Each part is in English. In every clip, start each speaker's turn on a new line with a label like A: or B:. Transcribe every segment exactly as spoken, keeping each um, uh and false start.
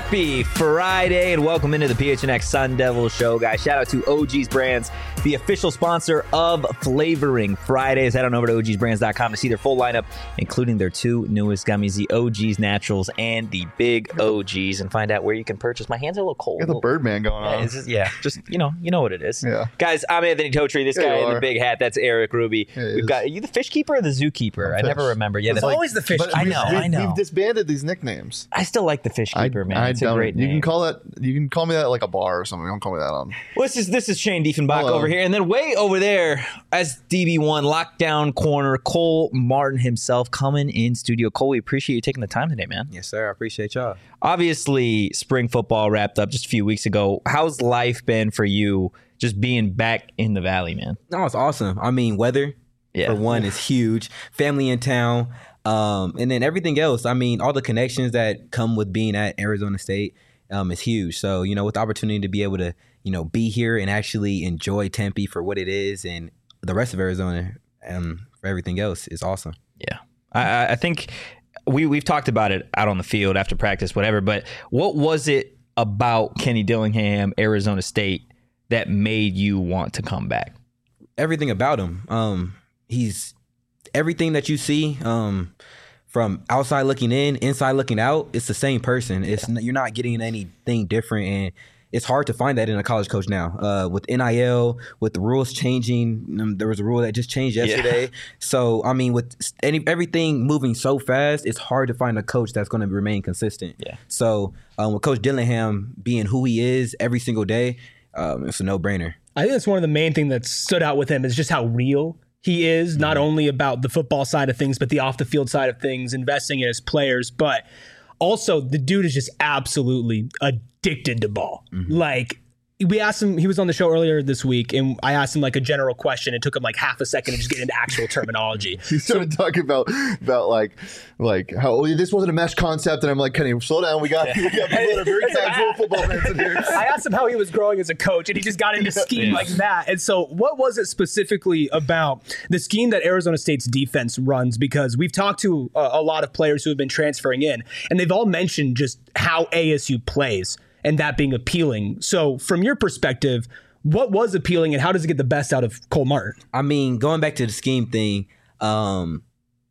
A: Happy Friday and welcome into the P H N X Sun Devil Show, guys. Shout out to O G's Brands, the official sponsor of Flavoring Fridays. Head on over to O Gs brands dot com to see their full lineup, including their two newest gummies, the O G's Naturals and the Big O Gs, and find out where you can purchase. My hands are a little cold.
B: You got the Birdman going on.
A: Yeah, just, yeah, just, you know, you know what it is.
B: Yeah.
A: Guys, I'm Anthony Totri. This
B: Yeah,
A: guy
B: you
A: in the
B: are.
A: big hat, that's Eric Ruby.
B: Yeah, he
A: We've
B: is.
A: got, are you the fish keeper or the zookeeper? I
B: Fish.
A: never remember. Yeah,
B: It's
A: the,
B: like-
C: always the fish
B: but
A: I
B: we-
A: know,
B: we-
A: I know.
B: We've disbanded these nicknames.
A: I still like the fish keeper, man.
B: I
A: It's a
B: don't.
A: great
B: You
A: name.
B: can call that. You can call me that at like a bar or something. Don't call me that on.
A: Well, this is this is Shane Diefenbach
B: Hello.
A: over here, and then way over there as D B one lockdown corner, Cole Martin himself coming in studio. Cole, we appreciate you taking the time today, man.
C: Yes, sir. I appreciate y'all.
A: Obviously, spring football wrapped up just a few weeks ago. How's life been for you, just being back in the Valley, man?
C: No, it's awesome. I mean, weather,
A: Yeah.
C: for one, is huge. Family in town. Um, and then everything else. I mean, all the connections that come with being at Arizona State um, is huge. So, you know, with the opportunity to be able to, you know, be here and actually enjoy Tempe for what it is and the rest of Arizona um, for everything else is awesome.
A: Yeah, I, I think we we've talked about it out on the field after practice, whatever. But what was it about Kenny Dillingham, Arizona State, that made you want to come back?
C: Everything about him. Um, he's everything that you see um, from outside looking in, inside looking out. It's the same person. It's n- you're not getting anything different, and it's hard to find that in a college coach now. Uh, with N I L, with the rules changing, um, there was a rule that just changed yesterday. Yeah. So I mean, with any everything moving so fast, it's hard to find a coach that's going to remain consistent.
A: Yeah.
C: So um, with Coach Dillingham being who he is every single day, um, it's a no brainer.
D: I think that's one of the main things that stood out with him is just how real he is, not only about the football side of things, but the off the field side of things, investing in his players. But also the dude is just absolutely addicted to ball. Mm-hmm. Like, we asked him, he was on the show earlier this week, and I asked him like a general question. It took him like half a second to just get into actual terminology.
B: He started so, talking about about like like how oh, this wasn't a mesh concept, and I'm like, Kenny, slow down. We got we got people that are very casual football fans in here.
D: I asked him how he was growing as a coach, and he just got into scheme yeah. like that. And so, what was it specifically about the scheme that Arizona State's defense runs? Because we've talked to a, a lot of players who have been transferring in, and they've all mentioned just how A S U plays, and that being appealing. So from your perspective, what was appealing and how does it get the best out of Cole Martin?
C: I mean, going back to the scheme thing, um,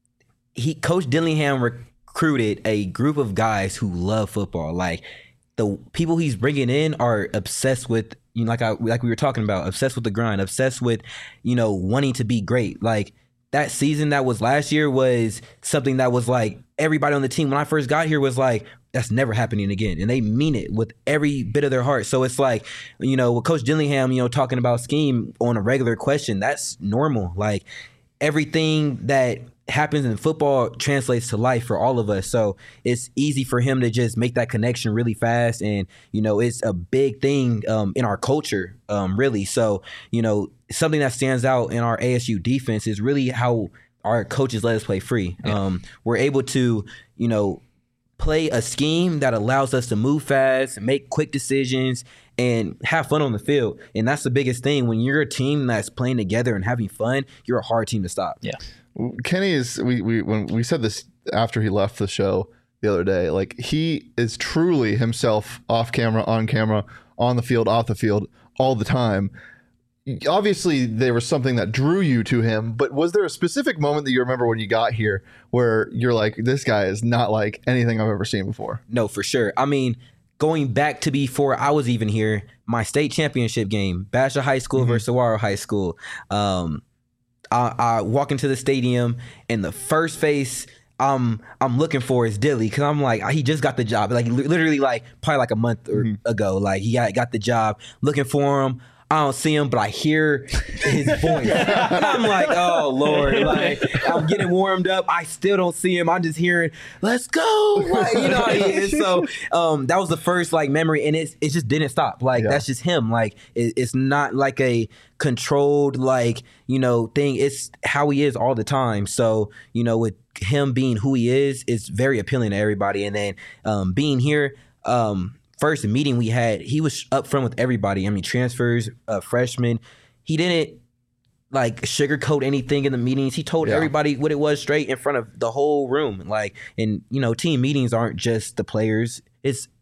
C: he Coach Dillingham recruited a group of guys who love football. Like, the people he's bringing in are obsessed with, you know, like I like we were talking about, obsessed with the grind, obsessed with, you know, wanting to be great. Like, that season that was last year was something that was like everybody on the team when I first got here was like, that's never happening again. And they mean it with every bit of their heart. So it's like, you know, with Coach Dillingham, you know, talking about scheme on a regular question, that's normal. Like, everything that happens in football translates to life for all of us. So it's easy for him to just make that connection really fast. And, you know, it's a big thing um, in our culture, um, really. So, you know, something that stands out in our A S U defense is really how our coaches let us play free. Yeah. Um, we're able to, you know, play a scheme that allows us to move fast, make quick decisions, and have fun on the field. And that's the biggest thing. When you're a team that's playing together and having fun, you're a hard team to stop.
A: Yeah.
B: Kenny is, we, we when we said this after he left the show the other day, like, he is truly himself off camera, on camera, on the field, off the field, all the time. Obviously, there was something that drew you to him, but was there a specific moment that you remember when you got here where you're like, this guy is not like anything I've ever seen before?
C: No, for sure. I mean, going back to before I was even here, my state championship game, Basha High School mm-hmm. versus Saguaro High School. Um, I, I walk into the stadium, and the first face I'm I'm looking for is Dilly, because I'm like, he just got the job. Like, literally, like probably like a month or mm-hmm. ago, like he got, got the job. Looking for him. I don't see him, but I hear his voice. And I'm like, oh, Lord. Like, I'm getting warmed up. I still don't see him. I'm just hearing, let's go. Like, you know how he is. So um, that was the first, like, memory, and it, it just didn't stop. Like, yeah. That's just him. Like, it, it's not like a controlled, like, you know, thing. It's how he is all the time. So, you know, with him being who he is, it's very appealing to everybody. And then um, being here, um, first meeting we had, he was up front with everybody. I mean, transfers, uh, freshmen. He didn't like sugarcoat anything in the meetings. He told yeah. everybody what it was straight in front of the whole room. Like, and you know, team meetings aren't just the players. It's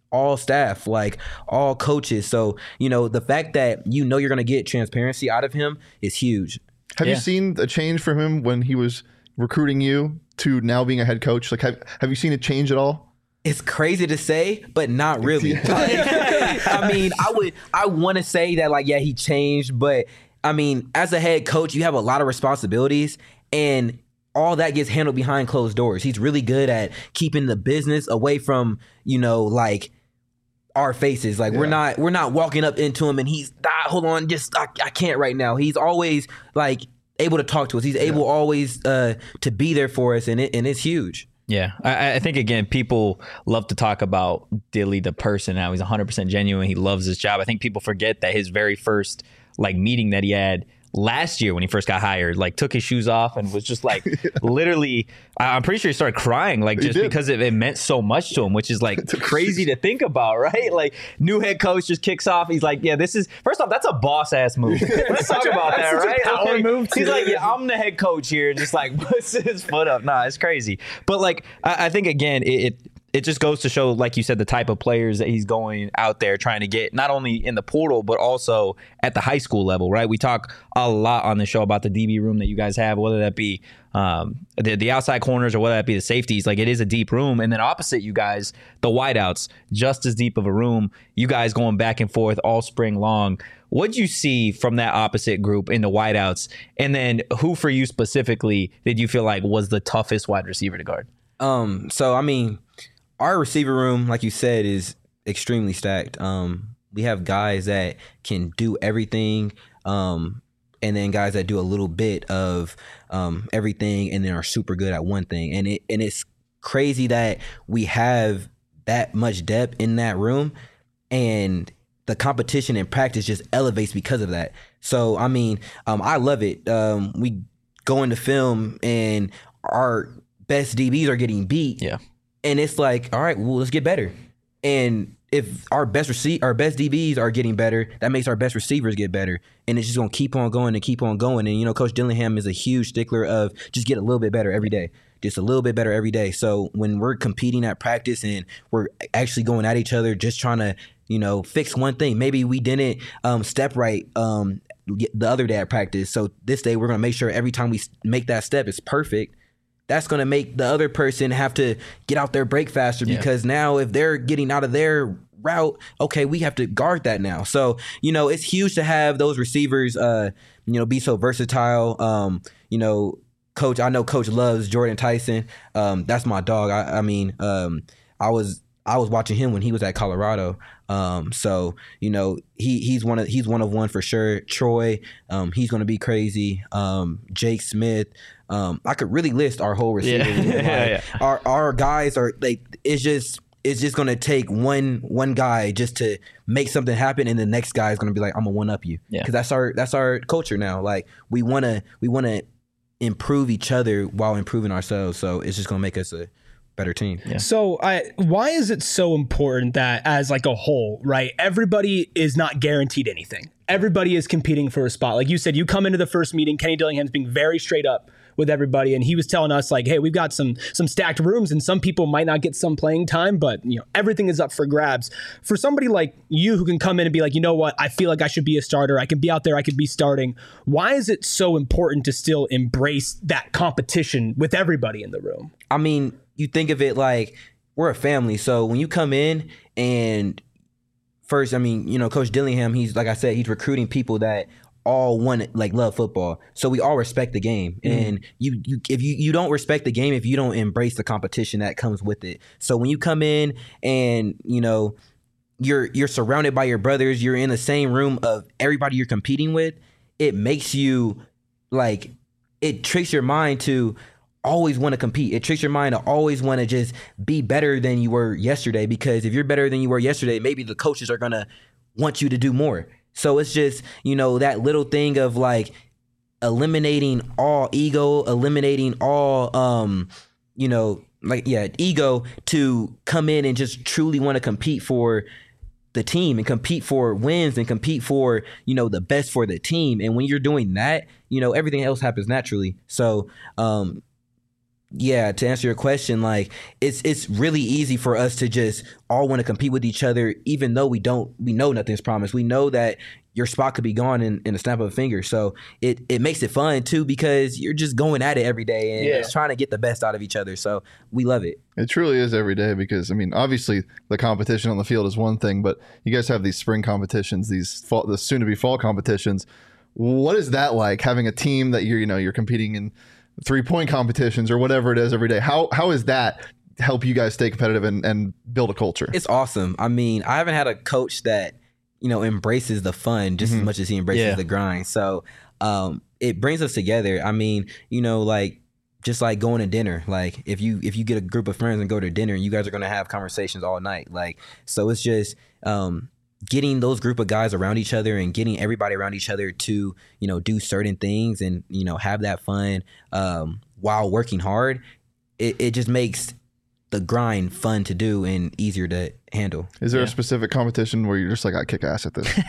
C: all staff, like all coaches. So, you know, the fact that you know you're going to get transparency out of him is huge.
B: Have
A: Yeah.
B: you seen a change for him when he was recruiting you to now being a head coach? Like, have, have you seen it change at all?
C: It's crazy to say, but not really. I mean, I would, I want to say that, like, yeah, he changed, but I mean, as a head coach, you have a lot of responsibilities, and all that gets handled behind closed doors. He's really good at keeping the business away from, you know, like our faces. Like, we're not, we're not walking up into him and he's, ah, hold on, just, I, I can't right now. He's always like able to talk to us. He's able always uh, to be there for us, and it, and it's huge.
A: Yeah, I, I think, again, people love to talk about Dilly the person, how he's one hundred percent genuine. He loves his job. I think people forget that his very first like meeting that he had last year when he first got hired, like took his shoes off and was just like literally, I'm pretty sure he started crying, like just because it, it meant so much to him, which is like crazy to think about, right? Like, new head coach just kicks off. He's like, yeah, this is, first off, that's a boss ass move. Let's talk about that, right?
D: Power
A: Like,
D: move
A: he's
D: too.
A: like, yeah, I'm the head coach here. Just like puts his foot up. Nah, it's crazy. But like, I, I think again, it, it it just goes to show, like you said, the type of players that he's going out there trying to get, not only in the portal, but also at the high school level, right? We talk a lot on the show about the D B room that you guys have, whether that be um, the, the outside corners or whether that be the safeties. Like, it is a deep room. And then opposite you guys, the wideouts, just as deep of a room. You guys going back and forth all spring long. What'd you see from that opposite group in the wideouts? And then who for you specifically did you feel like was the toughest wide receiver to guard?
C: Um, so I mean, our receiver room, like you said, is extremely stacked. Um, we have guys that can do everything, um, and then guys that do a little bit of um, everything, and then are super good at one thing. And it and it's crazy that we have that much depth in that room, and the competition in practice just elevates because of that. So I mean, um, I love it. Um, we go into film, and our best D Bs are getting beat.
A: Yeah.
C: And it's like, all right, well, let's get better. And if our best rece- our best D Bs are getting better, that makes our best receivers get better. And it's just going to keep on going and keep on going. And, you know, Coach Dillingham is a huge stickler of just get a little bit better every day. Just a little bit better every day. So when we're competing at practice and we're actually going at each other, just trying to, you know, fix one thing. Maybe we didn't um, step right um, the other day at practice. So this day we're going to make sure every time we make that step, it's perfect. That's going to make the other person have to get out their break faster,
A: Yeah.
C: because now if they're getting out of their route, okay, we have to guard that now. So, you know, it's huge to have those receivers, uh, you know, be so versatile. Um, you know, Coach, I know Coach loves Jordan Tyson. Um, that's my dog. I, I mean, um, I was I was watching him when he was at Colorado. Um, so, you know, he he's one of he's one of one for sure. Troy, um, he's going to be crazy. Um, Jake Smith. Um, I could really list our whole receivers.
A: Yeah.
C: Like,
A: Yeah, yeah.
C: Our our guys are like, it's just it's just gonna take one one guy just to make something happen, and the next guy is gonna be like, I'm gonna one up you,
A: Yeah.
C: because that's our that's our culture now. Like, we wanna we wanna improve each other while improving ourselves. So it's just gonna make us a better team.
A: Yeah.
D: So I, why is it so important that as like a whole, right, everybody is not guaranteed anything. Everybody is competing for a spot. Like you said, you come into the first meeting, Kenny Dillingham's being very straight up with everybody, and he was telling us like, hey, we've got some some stacked rooms, and some people might not get some playing time, but you know, everything is up for grabs. For somebody like you who can come in and be like, you know what, I feel like I should be a starter, I can be out there, I could be starting. Why is it so important to still embrace that competition with everybody in the room?
C: I mean, you think of it like we're a family. So when you come in, and first, I mean, you know, Coach Dillingham, he's, like I said, he's recruiting people that all want, like, love football. So we all respect the game. Mm. And you, you if you, you don't respect the game if you don't embrace the competition that comes with it. So when you come in and, you know, you're you're surrounded by your brothers, you're in the same room of everybody you're competing with, it makes you, like, it tricks your mind to always want to compete. It tricks your mind to always want to just be better than you were yesterday, because if you're better than you were yesterday, maybe the coaches are going to want you to do more. So it's just, you know, that little thing of like eliminating all ego, eliminating all, um, you know, like, yeah, ego, to come in and just truly want to compete for the team and compete for wins and compete for, you know, the best for the team. And when you're doing that, you know, everything else happens naturally. So, um, Yeah, to answer your question, like it's it's really easy for us to just all want to compete with each other, even though we don't we know nothing's promised. We know that your spot could be gone in, in a snap of a finger. So it, it makes it fun too, because you're just going at it every day and
D: Yeah.
C: just trying to get the best out of each other. So we love it.
B: It truly is every day because, I mean, obviously the competition on the field is one thing, but you guys have these spring competitions, these fall, the soon-to-be fall competitions. What is that like, having a team that you're, you know, you're competing in three-point competitions or whatever it is every day? How How is that help you guys stay competitive and, and build a culture?
C: It's awesome. I mean, I haven't had a coach that, you know, embraces the fun just
B: Mhm.
C: as much as he embraces
A: Yeah.
C: the grind. So um, it brings us together. I mean, you know, like just like going to dinner. Like if you if you get a group of friends and go to dinner, you guys are going to have conversations all night. Like, so it's just um, getting those group of guys around each other and getting everybody around each other to, you know, do certain things and, you know, have that fun um, while working hard. It, it just makes the grind fun to do and easier to handle.
B: Is there
A: Yeah.
B: a specific competition where you're just like, I kick ass at this?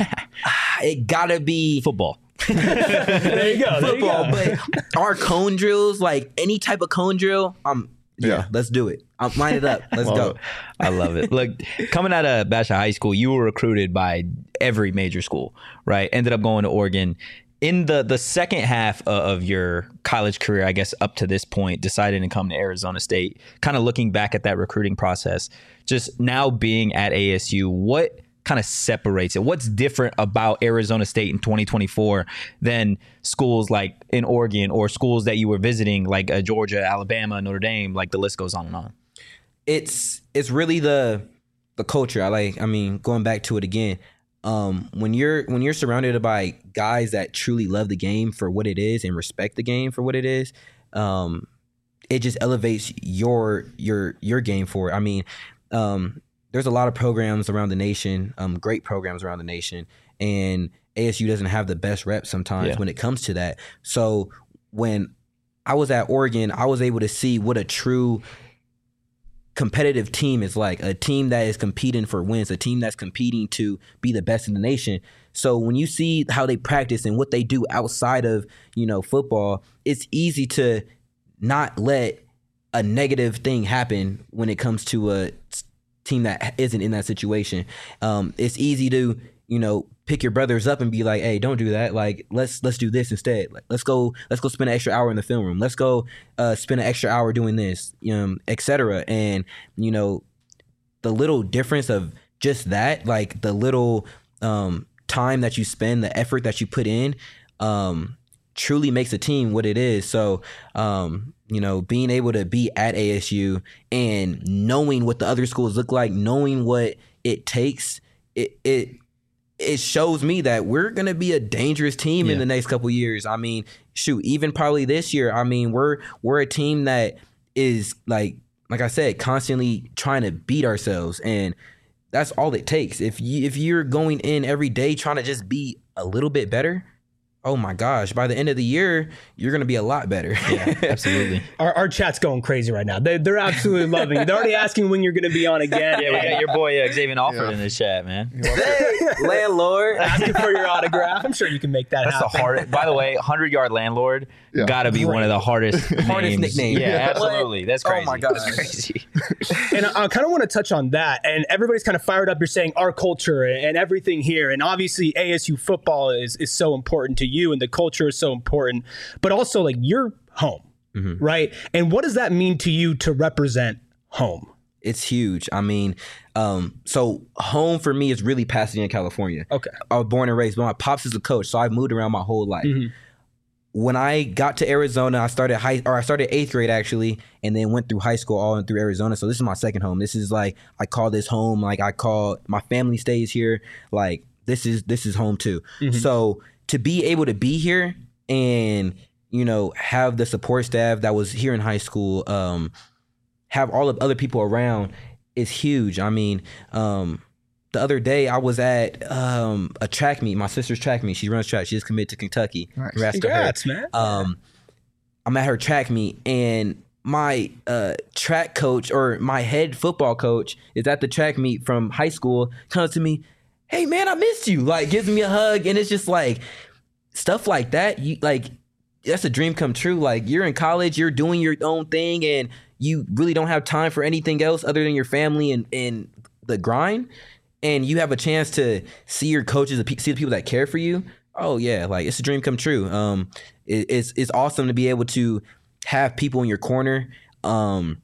C: It gotta be
A: Football.
D: There you go. There you
C: football,
D: go.
C: but our cone drills, like any type of cone drill, um, yeah,
B: Yeah.
C: let's do it. Um, line it up. Let's
B: Love
C: go.
B: it.
A: I love it. Look, coming out of Basha High School, you were recruited by every major school, right? Ended up going to Oregon. In the the second half o- of your college career, I guess up to this point, decided to come to Arizona State. Kind of looking back at that recruiting process, just now being at A S U, what kind of separates it? What's different about Arizona State in twenty twenty-four than schools like in Oregon or schools that you were visiting like uh, Georgia, Alabama, Notre Dame? Like the list goes on and on.
C: It's it's really the the culture. I like. I mean, going back to it again. Um, when you're when you're surrounded by guys that truly love the game for what it is and respect the game for what it is, um, it just elevates your your your game for it. I mean, um, there's a lot of programs around the nation, um, great programs around the nation, and A S U doesn't have the best rep sometimes
A: Yeah.
C: when it comes to that. So when I was at Oregon, I was able to see what a true competitive team is like, a team that is competing for wins, a team that's competing to be the best in the nation. So when you see how they practice and what they do outside of, you know, football, it's easy to not let a negative thing happen when it comes to a team that isn't in that situation. Um, it's easy to, you know, pick your brothers up and be like, hey, don't do that. Like, let's let's do this instead. Like, let's go, let's go spend an extra hour in the film room. Let's go uh, spend an extra hour doing this, um, et cetera. And, you know, the little difference of just that, like the little um, time that you spend, the effort that you put in, um, truly makes a team what it is. So, um, you know, being able to be at A S U and knowing what the other schools look like, knowing what it takes, it it it shows me that we're gonna be a dangerous team
A: Yeah.
C: in the next couple years. I mean, shoot, even probably this year. I mean, we're we're a team that is like like I said, constantly trying to beat ourselves, and that's all it takes. If you if you're going in every day trying to just be a little bit better, oh my gosh, by the end of the year, you're going to be a lot better.
A: Yeah, absolutely.
D: Our, our chat's going crazy right now. They, they're absolutely loving it. They're already asking when you're going to be on again.
A: Yeah, we got your boy uh, Xavier Alford
B: Yeah.
A: in the chat, man.
C: Landlord.
D: Asking for your autograph. I'm sure you can make that
A: That's
D: happen.
A: the hardest. By the way, hundred yard landlord
B: Yeah.
A: gotta be one of the hardest
C: Hardest
A: names.
C: nicknames.
A: Yeah,
C: Yeah.
A: absolutely. That's
C: Oh
A: crazy.
C: my gosh.
A: That's crazy.
D: And I, I kind of want to touch on that. And everybody's kind of fired up. You're saying our culture and everything here. And obviously, A S U football is is so important to you, and the culture is so important. But also, like, you're home, right? And what does that mean to you to represent home?
C: It's huge. I mean, um, so home for me is really Pasadena, California.
D: Okay.
C: I was born and raised, but my pops is a coach, so I've moved around my whole life. When I got to Arizona, I started high, or I started eighth grade actually, and then went through high school all in through Arizona. So this is my second home. This is like I call this home. Like I call my family stays here. Like this is this is home too. So to be able to be here and you know have the support staff that was here in high school, um, have all of other people around is huge. I mean, um, the other day I was at um, a track meet. My sister's track meet. She runs track. She just committed to Kentucky.
B: Nice.
C: Congrats to her.
D: Congrats, man.
C: Um, I'm at her track meet, and my uh, track coach or my head football coach is at the track meet from high school. Comes to me, hey man, I missed you. Like gives me a hug, and it's just like stuff like that. You like. that's a dream come true. Like, you're in college, you're doing your own thing, and you really don't have time for anything else other than your family and, and the grind. And you have a chance to see your coaches, see the people that care for you. Oh yeah, like, it's a dream come true. Um, it, it's it's awesome to be able to have people in your corner, um,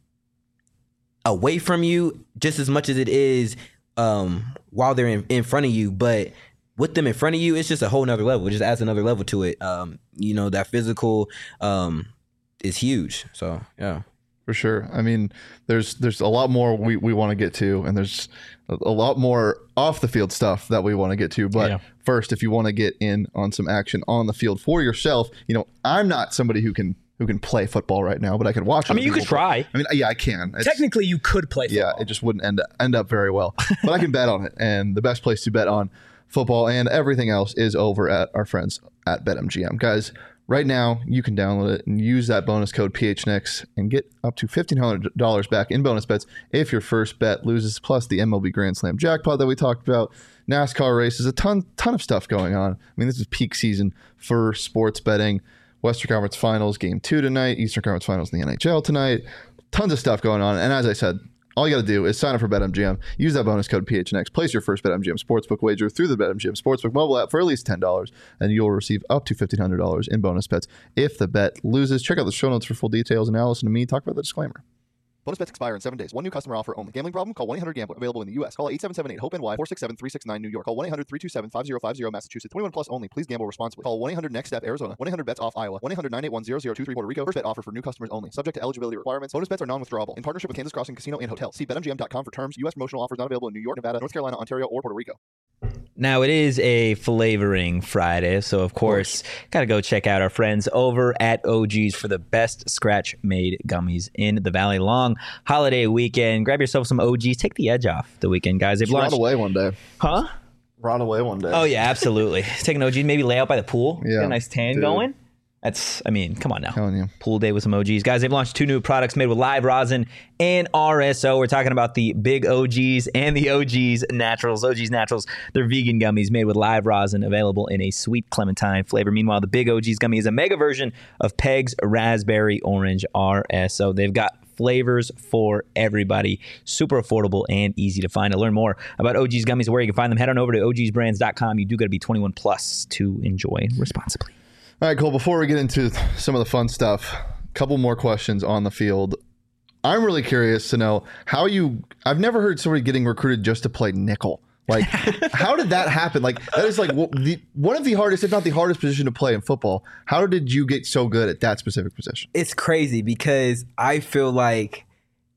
C: away from you just as much as it is um, while they're in, in front of you. But with them in front of you, it's just a whole nother level. It just adds another level to it. Um, you know, that physical um, is huge. So, yeah.
B: For sure. I mean, there's there's a lot more we, we want to get to, and there's a, a lot more off the field stuff that we want to get to. But
A: Yeah.
B: first, if you want to get in on some action on the field for yourself, you know, I'm not somebody who can who can play football right now, but I can watch.
A: I mean,
B: other
A: you could
B: people play.
A: try.
B: I mean, yeah, I can. It's-
D: Technically, you could play football.
B: Yeah, it just wouldn't end end up very well. But I can bet on it, and the best place to bet on football and everything else is over at our friends at BetMGM. Guys, right now you can download it and use that bonus code P H N X and get up to fifteen hundred dollars back in bonus bets if your first bet loses, plus the M L B Grand Slam jackpot that we talked about, NASCAR races, a ton ton of stuff going on. I mean, this is peak season for sports betting. Western Conference Finals game two tonight, Eastern Conference Finals in the N H L tonight. Tons of stuff going on. And as I said, all you got to do is sign up for BetMGM. Use that bonus code P H N X. Place your first BetMGM Sportsbook wager through the BetMGM Sportsbook mobile app for at least ten dollars, and you'll receive up to fifteen hundred dollars in bonus bets if the bet loses. Check out the show notes for full details, and now listen to me talk about the disclaimer. Bonus bets expire in seven days. One new customer offer only. Gambling problem? Call one eight hundred gambler. Available in the U S. Call eight seven seven eight hope N Y four six seven three six nine New York. Call one eight hundred three two seven five zero five zero Massachusetts. twenty-one plus only. Please gamble responsibly. Call one eight hundred next step Arizona. one eight hundred bets off Iowa. one eight hundred nine eight one zero zero two three Puerto Rico. First bet offer for new customers only. Subject to eligibility requirements. Bonus bets are non-withdrawable. In partnership with Kansas Crossing Casino and Hotel. See bet M G M dot com for terms. U S promotional offers not available in New York, Nevada, North Carolina, Ontario, or Puerto Rico.
A: Now, it is a flavoring Friday, so of course, got to go check out our friends over at O G's for the best scratch-made gummies in the Valley. Long holiday weekend. Grab yourself some O G's. Take the edge off the weekend, guys. They've
B: Just run
A: launched...
B: away one day.
A: Huh?
B: Run away one day.
A: Oh, yeah, absolutely. Take an O G, maybe lay out by the pool.
B: Yeah,
A: Get a nice tan
B: dude.
A: going. That's, I mean, come on now.
B: Telling you.
A: Pool day with some O Gs. Guys, they've launched two new products made with live rosin and R S O. We're talking about the Big O Gs and the O Gs Naturals. O Gs Naturals, they're vegan gummies made with live rosin, available in a sweet clementine flavor. Meanwhile, the Big O Gs gummy is a mega version of Peg's Raspberry Orange R S O. They've got flavors for everybody. Super affordable and easy to find. To learn more about O G's gummies, where you can find them, head on over to O Gs brands dot com. You do got to be twenty-one plus to enjoy responsibly.
B: All right, Cole, before we get into some of the fun stuff, a couple more questions on the field. I'm really curious to know how you, I've never heard somebody getting recruited just to play nickel. Like, how did that happen? Like, that is like what the, one of the hardest, if not the hardest position to play in football. How did you get so good at that specific position?
C: It's crazy because I feel like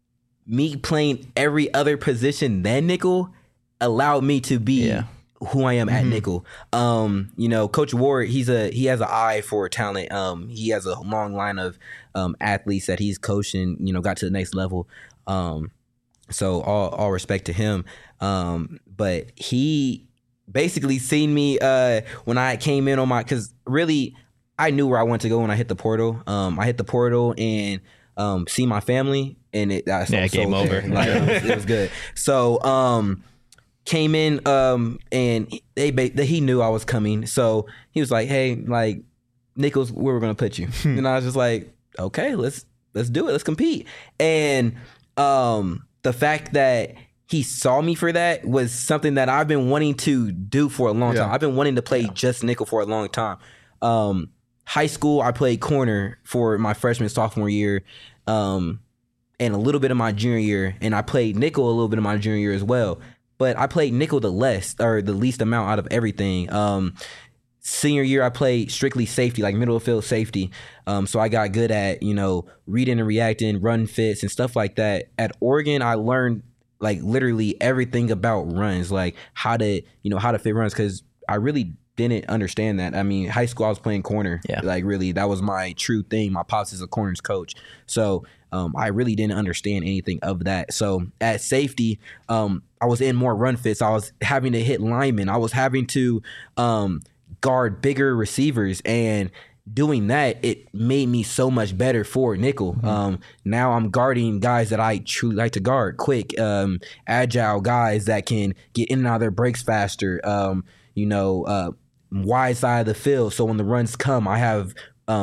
C: me playing every other position than nickel allowed me to be
A: Yeah.
C: who I am at nickel. Um, you know, Coach Ward, he's a he has an eye for talent. Um, he has a long line of um, athletes that he's coaching, you know, got to the next level. Um, so all all respect to him. Um, but he basically seen me uh, when I came in on my, because really I knew where I wanted to go when I hit the portal. Um, I hit the portal and um, see my family, and it I
A: Yeah,
C: sold
A: game
C: there.
A: over.
C: Like, it, was, it was good. So. Um, Came in, um, and they, they he knew I was coming, so he was like, "Hey, like, Nichols, where we're gonna put you?" And I was just like, "Okay, let's let's do it, let's compete." And um, the fact that he saw me for that was something that I've been wanting to do for a long
B: Yeah.
C: time. I've been wanting to play just nickel for a long time. Um, high school, I played corner for my freshman sophomore year, um, and a little bit of my junior year, and I played nickel a little bit of my junior year as well. But I played nickel the less or the least amount out of everything. Um, senior year, I played strictly safety, like middle of field safety. Um, so I got good at, you know, reading and reacting, run fits and stuff like that. At Oregon, I learned like literally everything about runs, like how to, you know, how to fit runs, because I really didn't understand that. I mean, high school, I was playing corner.
A: Yeah.
C: Like really, that was my true thing. My pops is a corners coach. So um, I really didn't understand anything of that. So at safety, um, I was in more run fits. I was having to hit linemen. I was having to um, guard bigger receivers, and doing that, it made me so much better for nickel. Mm-hmm. Um, now I'm guarding guys that I truly like to guard, quick, um, agile guys that can get in and out of their breaks faster, um, you know, uh, wide side of the field. So when the runs come, I have um,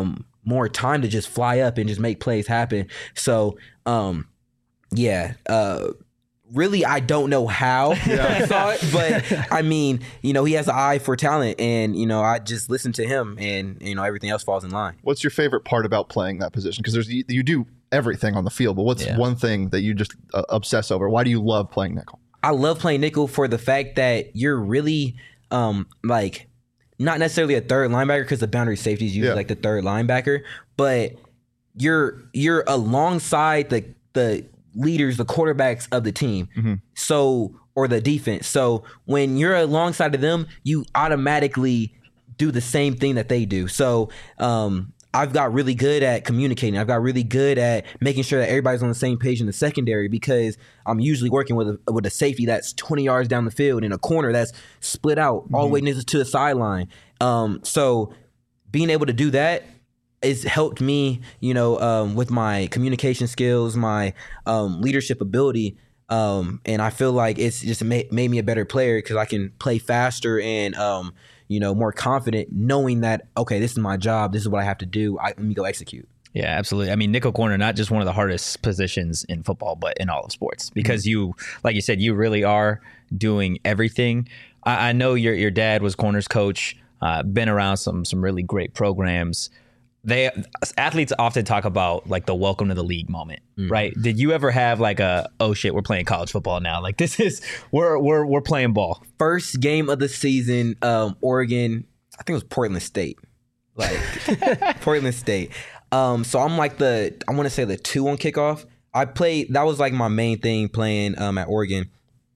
C: more time to just fly up and just make plays happen. So, um, yeah, uh, really, I don't know how I saw it, but I mean, you know, he has an eye for talent, and you know, I just listen to him, and you know, everything else falls in line.
B: What's your favorite part about playing that position? Because there's you, you do everything on the field, but what's
A: Yeah.
B: one thing that you just uh, obsess over? Why do you love playing nickel?
C: I love playing nickel for the fact that you're really um, like not necessarily a third linebacker, because the boundary safety is usually
B: Yeah.
C: like the third linebacker, but you're you're alongside the the leaders, the quarterbacks of the team.
B: Mm-hmm.
C: So or the defense. So when you're alongside of them, you automatically do the same thing that they do. So um, I've got really good at communicating. I've got really good at making sure that everybody's on the same page in the secondary, because I'm usually working with a, with a safety that's twenty yards down the field and a corner that's split out all the way to the sideline. Um, so being able to do that has helped me, you know, um, with my communication skills, my um, leadership ability. Um, and I feel like it's just made, made me a better player, because I can play faster and, um, you know, more confident, knowing that, okay, this is my job. This is what I have to do. I, let me go execute.
A: Yeah, absolutely. I mean, nickel corner, not just one of the hardest positions in football, but in all of sports, because mm-hmm. you, like you said, you really are doing everything. I, I know your your dad was corners coach, uh, been around some some really great programs. They athletes often talk about like the welcome to the league moment, mm-hmm. right? Did you ever have like a, oh shit, we're playing college football now? Like this is, we're we're we're playing ball.
C: First game of the season, um, Oregon, I think it was Portland State. Like Portland State. Um, so I'm like the, I want to say the two on kickoff. I played, that was like my main thing playing um, at Oregon,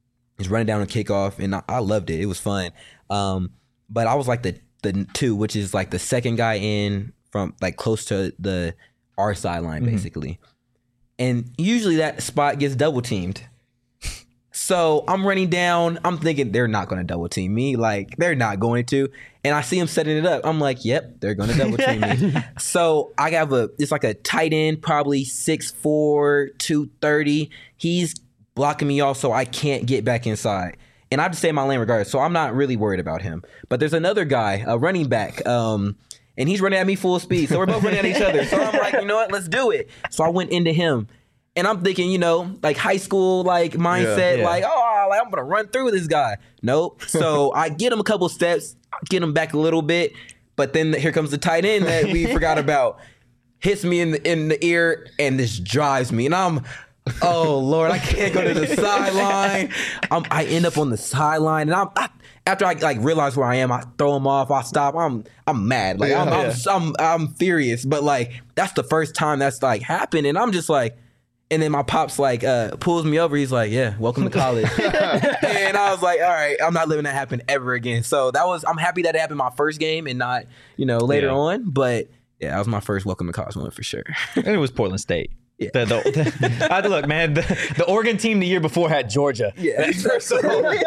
C: is running down a kickoff, and I, I loved it. It was fun. Um, but I was like the the two, which is like the second guy in from like close to the our sideline, mm-hmm. basically. And usually that spot gets double teamed. So I'm running down. I'm thinking they're not going to double team me. Like, they're not going to. And I see them setting it up. I'm like, yep, they're going to double team me. So I have a, it's like a tight end, probably six four, two thirty. He's blocking me off so I can't get back inside. And I have to stay in my lane regardless. So I'm not really worried about him. But there's another guy, a running back, um, and he's running at me full speed. So we're both running at each other. So I'm like, you know what? Let's do it. So I went into him. And I'm thinking, you know, like high school, like mindset,
A: Yeah, yeah.
C: like, oh, like, I'm going to run through this guy. Nope. So I get him a couple steps, get him back a little bit. But then here comes the tight end that we forgot about. Hits me in the, in the ear, and this drives me. And I'm, oh, Lord, I can't go to the sideline. I'm, I end up on the sideline. And I'm, I, after I like realize where I am, I throw him off. I stop. I'm I'm mad. Like,
B: Yeah,
C: I'm,
B: yeah.
C: I'm, I'm, I'm furious. But, like, that's the first time that's, like, happened. And I'm just like, and then my pops like uh, pulls me over. He's like, "Yeah, welcome to college." And I was like, "All right, I'm not letting that happen ever again." So that was, I'm happy that it happened my first game and not, you know, later
A: Yeah.
C: on. But yeah, that was my first welcome to college moment for sure.
A: And it was Portland State.
C: Yeah.
A: The, the, the, I had to look, man. The, the Oregon team the year before had Georgia.
C: Yeah,
A: So,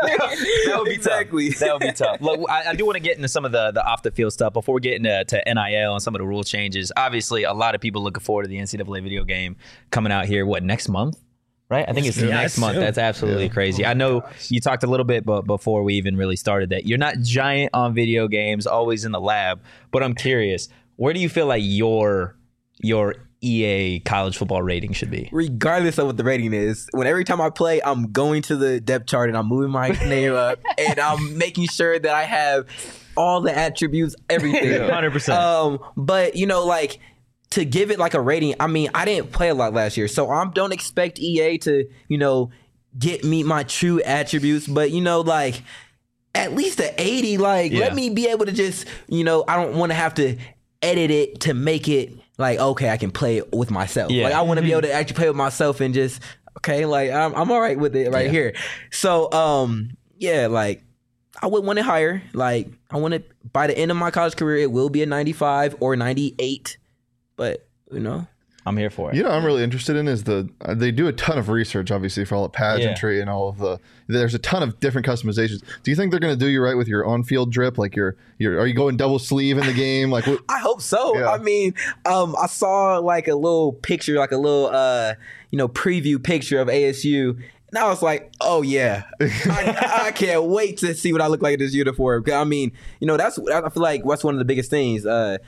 A: that would be
C: exactly.
A: tough. That would be tough. Look, I, I do want to get into some of the, the off the field stuff before we get into to N I L and some of the rule changes. Obviously, a lot of people looking forward to the N C double A video game coming out here. What, next month? Right? I think it's
D: Yeah,
A: next month.
D: soon.
A: That's absolutely crazy. I know you talked a little bit, but before we even really started, that you're not giant on video games, always in the lab. But I'm curious, where do you feel like your your E A college football rating should be?
C: Regardless of what the rating is, when every time I play, I'm going to the depth chart and I'm moving my name up and I'm making sure that I have all the attributes, everything.
A: one hundred percent.
C: Um, but you know, like, to give it like a rating, I mean, I didn't play a lot last year, so I don't expect E A to, you know, get me my true attributes. But you know, like, at least an eighty. Like,
A: Yeah.
C: let me be able to just, you know, I don't want to have to edit it to make it like, okay, I can play it with myself.
A: Yeah.
C: Like, I want to be able to actually play with myself and just, okay, like, I'm I'm all right with it right
A: Yeah.
C: here. So, um, yeah, like, I would want it higher. Like, I want it, by the end of my college career, it will be a ninety-five or ninety-eight. But, you know,
A: I'm here for it.
B: You know, what I'm really interested in is the uh, they do a ton of research, obviously, for all the pageantry and all of the. There's a ton of different customizations. Do you think they're going to do you right with your on-field drip? Like, your, your are you going double sleeve in the game? Like, what?
C: I hope so.
B: Yeah.
C: I mean, um, I saw like a little picture, like a little, uh, you know, preview picture of A S U. And I was like, oh, yeah, I, I can't wait to see what I look like in this uniform. 'Cause, I mean, you know, that's, I feel like that's one of the biggest things. Uh,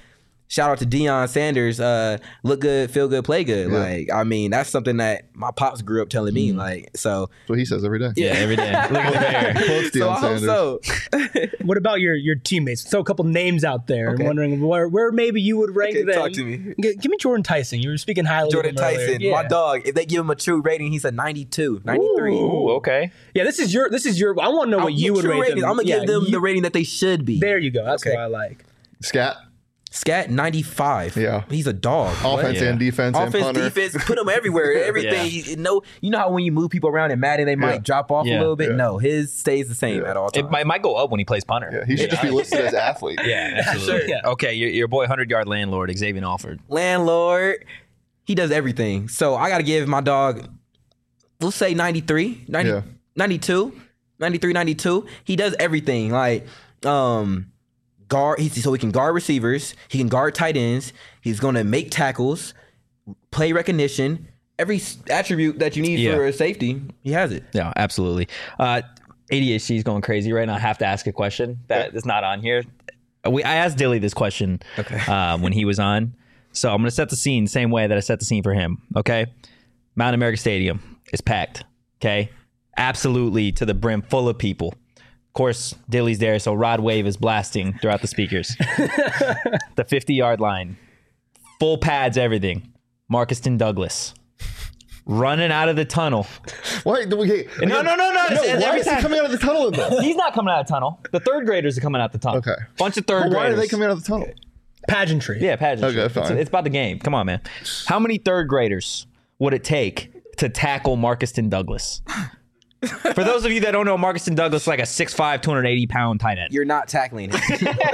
C: shout out to Deion Sanders. Uh, look good, feel good, play good.
B: Yeah.
C: Like, I mean, that's something that my pops grew up telling me.
A: Mm.
C: Like, so
B: That's what he says every day.
A: Yeah, every day. Look at the bear.
B: Quotes
C: so
B: Deion
C: I hope
B: Sanders.
C: so.
D: What about your your teammates? Throw a couple names out there.
C: Okay.
D: I'm wondering where, where maybe you would rank
C: Okay,
D: them.
C: talk to me.
D: G- give me Jordan Tyson. You were speaking highly
C: Jordan
D: of him earlier.
C: Tyson,
D: Yeah.
C: my dog. If they give him a true rating, he's a ninety-two, ninety-three.
A: Ooh, okay.
D: Yeah, this is your this is your. I want to know
C: I'll
D: what you
C: get
D: would
C: true
D: rate
C: ratings.
D: them.
C: I'm gonna
D: Yeah,
C: give them
D: you-
C: the rating that they should be.
D: There you go. That's
C: Okay.
D: what I like.
B: Scat,
C: Scat ninety-five.
B: Yeah.
C: he's a dog.
B: offense
A: Yeah.
B: and defense and
C: Offense,
B: punter.
C: defense, put him everywhere. Everything.
A: Yeah.
C: He- no, you know how when you move people around in Madden, they might
B: Yeah.
C: drop off
A: Yeah.
C: a little bit.
B: Yeah.
C: No, his stays the same
B: Yeah.
C: at all times.
A: It might, might go up when he plays punter.
B: Yeah, he should just be listed as athlete.
A: Yeah, absolutely.
D: Sure.
A: Okay, your, your boy, hundred-yard landlord, Xavier Alford.
C: Landlord, he does everything. So I got to give my dog, let's say ninety-three, ninety,
B: Yeah.
C: ninety-two, ninety-three, ninety-two. He does everything. Like, um, guard, he, so he can guard receivers, he can guard tight ends, he's going to make tackles, play recognition, every s- attribute that you need
A: Yeah.
C: for a safety, he has it.
A: Yeah, absolutely. Uh, A D H D is going crazy right now. I have to ask a question that is not on here. We I asked Dilly this question
C: Okay.
A: uh, when he was on. So I'm going to set the scene same way that I set the scene for him. Okay. Mount America Stadium is packed. Okay. Absolutely to the brim, full of people. Of course, Dilly's there, so Rod Wave is blasting throughout the speakers. The fifty-yard line. Full pads, everything. Marcuston Douglas. Running out of the tunnel.
B: Why? do we- Okay.
A: No, no, no, no.
B: No,
A: it's-
B: why
A: every
B: is he
A: time-
B: coming out of the tunnel in this?
A: He's not coming out of the tunnel. The third graders are coming out the tunnel.
B: Okay.
A: Bunch of third
B: Well, why
A: graders.
B: are they coming out of the tunnel?
D: Pageantry.
A: Yeah, pageantry.
B: Okay,
A: It's,
B: fine.
A: it's about the game. Come on, man. How many third graders would it take to tackle Marcuston Douglas? For those of you that don't know, Marcuston Douglas is like a six five, two hundred eighty pound tight end.
C: You're not tackling him.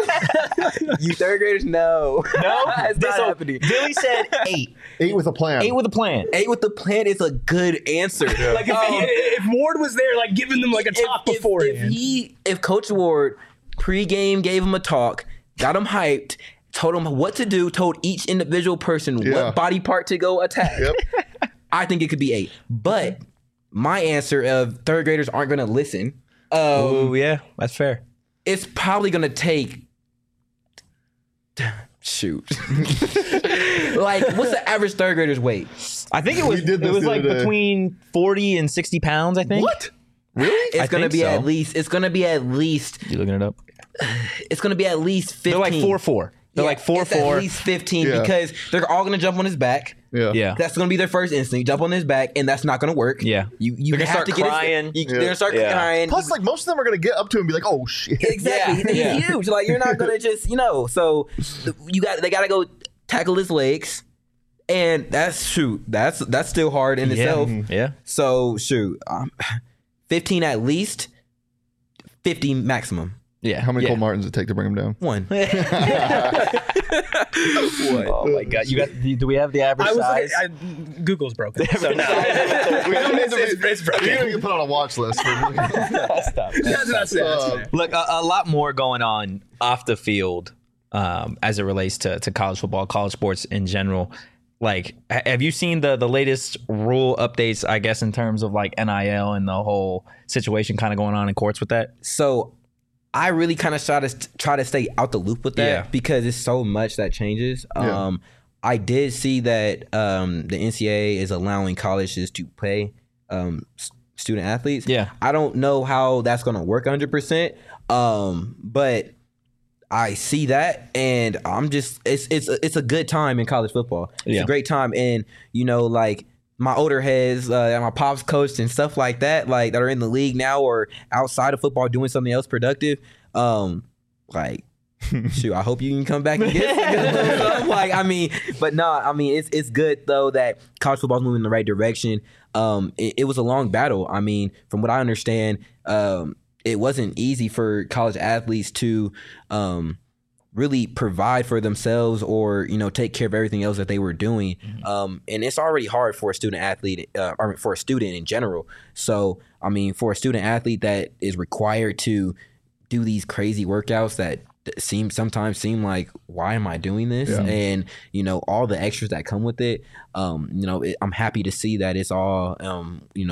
C: You third graders, no.
A: No?
C: it's not
A: So,
C: happening.
A: Dilly said eight.
B: Eight with a plan.
A: Eight with a plan.
C: Eight with the plan is a good answer.
D: Like if,
C: Um,
D: if Ward was there, like giving them like a talk
C: if, if,
D: beforehand.
C: if he, if Coach Ward pregame gave him a talk, got him hyped, told him what to do, told each individual person
B: Yeah.
C: what body part to go attack,
B: Yep.
C: I think it could be eight. But my answer of third graders aren't going to listen. Um,
A: Oh, yeah. That's fair.
C: it's probably going to take. Shoot. Like, what's the average third grader's weight?
A: I think it was,
B: did
A: it
B: this
A: was
B: the
A: like
B: other day.
A: between forty and sixty pounds, I think.
B: What? Really?
C: It's
A: I
C: gonna
A: think
C: be
A: so.
C: at least. It's gonna be at least.
A: You looking it up?
C: It's gonna be at least fifteen.
A: They're like four four. They're
C: Yeah,
A: like four
C: it's
A: four.
C: At least fifteen
B: Yeah.
C: because they're all gonna jump on his back.
B: Yeah.
A: Yeah.
C: That's gonna be their first instinct. Jump on his back, and that's not gonna work.
A: Yeah.
C: you you
A: They're gonna
C: have
A: start
C: to get his-
A: crying.
C: you-
B: Yeah.
C: They're gonna start
A: Yeah.
C: crying.
B: Plus, like most of them are gonna get up to him and be like, "Oh shit."
C: Exactly.
A: Yeah.
C: He's
A: Yeah.
C: huge. Like you're not gonna just you know. So you got they gotta go tackle his legs, and that's shoot. That's that's still hard in itself.
A: Yeah.
C: So shoot, um, fifteen at least, fifty maximum.
A: Yeah.
B: How many
A: yeah.
B: Cole Martins does it take to bring him down?
C: One.
A: Oh my god! You got? Do we have the average
D: I was
A: size?
D: like, I, Google's broken. So no.
B: We don't need to be-
D: It's- it's broken.
B: You're gonna get put on a watch list. For
A: Stop.
D: That's, that's, it, that's
B: Uh,
D: fair.
A: Look, a, a lot more going on off the field um, as it relates to, to college football, college sports in general. Like, ha- have you seen the the latest rule updates? I guess in terms of like N I L and the whole situation kind of going on in courts with that.
C: So I really kind of try to try to stay out the loop with that
A: Yeah.
C: because it's so much that changes.
B: Yeah.
C: Um, I did see that um, the N C double A is allowing colleges to pay um, s- student athletes.
A: Yeah.
C: I don't know how that's going to work one hundred percent, um, but I see that, and I'm just it's it's it's a good time in college football. It's
A: Yeah.
C: a great time, and you know, like my older heads, uh, my pops coached and stuff like that, like that are in the league now or outside of football doing something else productive. Um, like, shoot, I hope you can come back and get some. Like, I mean, but no, I mean, it's it's good though that college football's moving in the right direction. Um, it, it was a long battle. I mean, from what I understand, um, it wasn't easy for college athletes to um really provide for themselves or you know take care of everything else that they were doing, um, and it's already hard for a student athlete uh, or for a student in general. So I mean, for a student athlete that is required to do these crazy workouts that seem sometimes seem like, why am I doing this?
B: Yeah.
C: And you know all the extras that come with it. Um, you know, it, I'm happy to see that it's all um, you know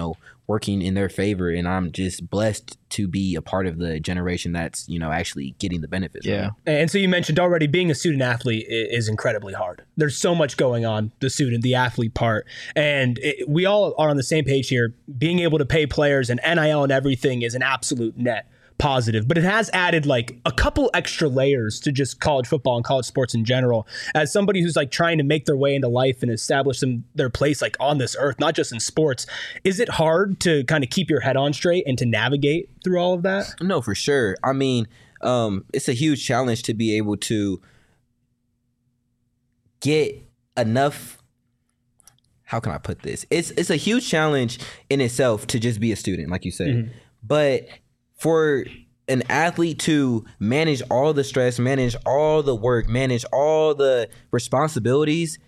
C: working in their favor, and I'm just blessed to be a part of the generation that's, you know, actually getting the benefits.
A: Yeah.
D: And so you mentioned already being a student athlete is incredibly hard. There's so much going on, the student, the athlete part. And it, we all are on the same page here. Being able to pay players and N I L and everything is an absolute net positive, but it has added like a couple extra layers to just college football and college sports in general. As somebody who's like trying to make their way into life and establish them, their place like on this earth, not just in sports, is it hard to kind of keep your head on straight and to navigate through all of that?
C: No, for sure. I mean, um, it's a huge challenge to be able to get enough. How can I put this? It's it's a huge challenge in itself to just be a student, like you said, mm-hmm. but for an athlete to manage all the stress, manage all the work, manage all the responsibilities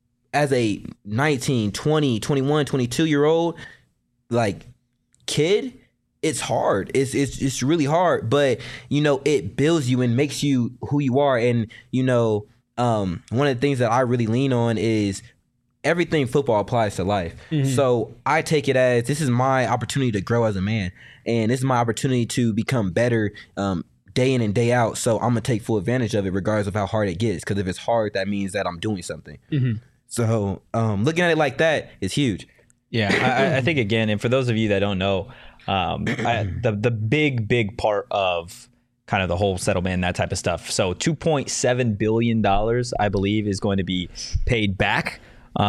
C: as a nineteen, twenty, twenty-one, twenty-two year old like kid, it's hard. It's it's it's really hard, but you know, it builds you and makes you who you are. And you know, um, one of the things that I really lean on is everything football applies to life. Mm-hmm. So I take it as this is my opportunity to grow as a man. And this is my opportunity to become better um, day in and day out. So I'm going to take full advantage of it regardless of how hard it gets. Because if it's hard, that means that I'm doing something. Mm-hmm. So um, looking at it like that is huge.
A: Yeah, I, I think, again, and for those of you that don't know, um, I, the, the big, big part of kind of the whole settlement and that type of stuff. So two point seven billion dollars, I believe, is going to be paid back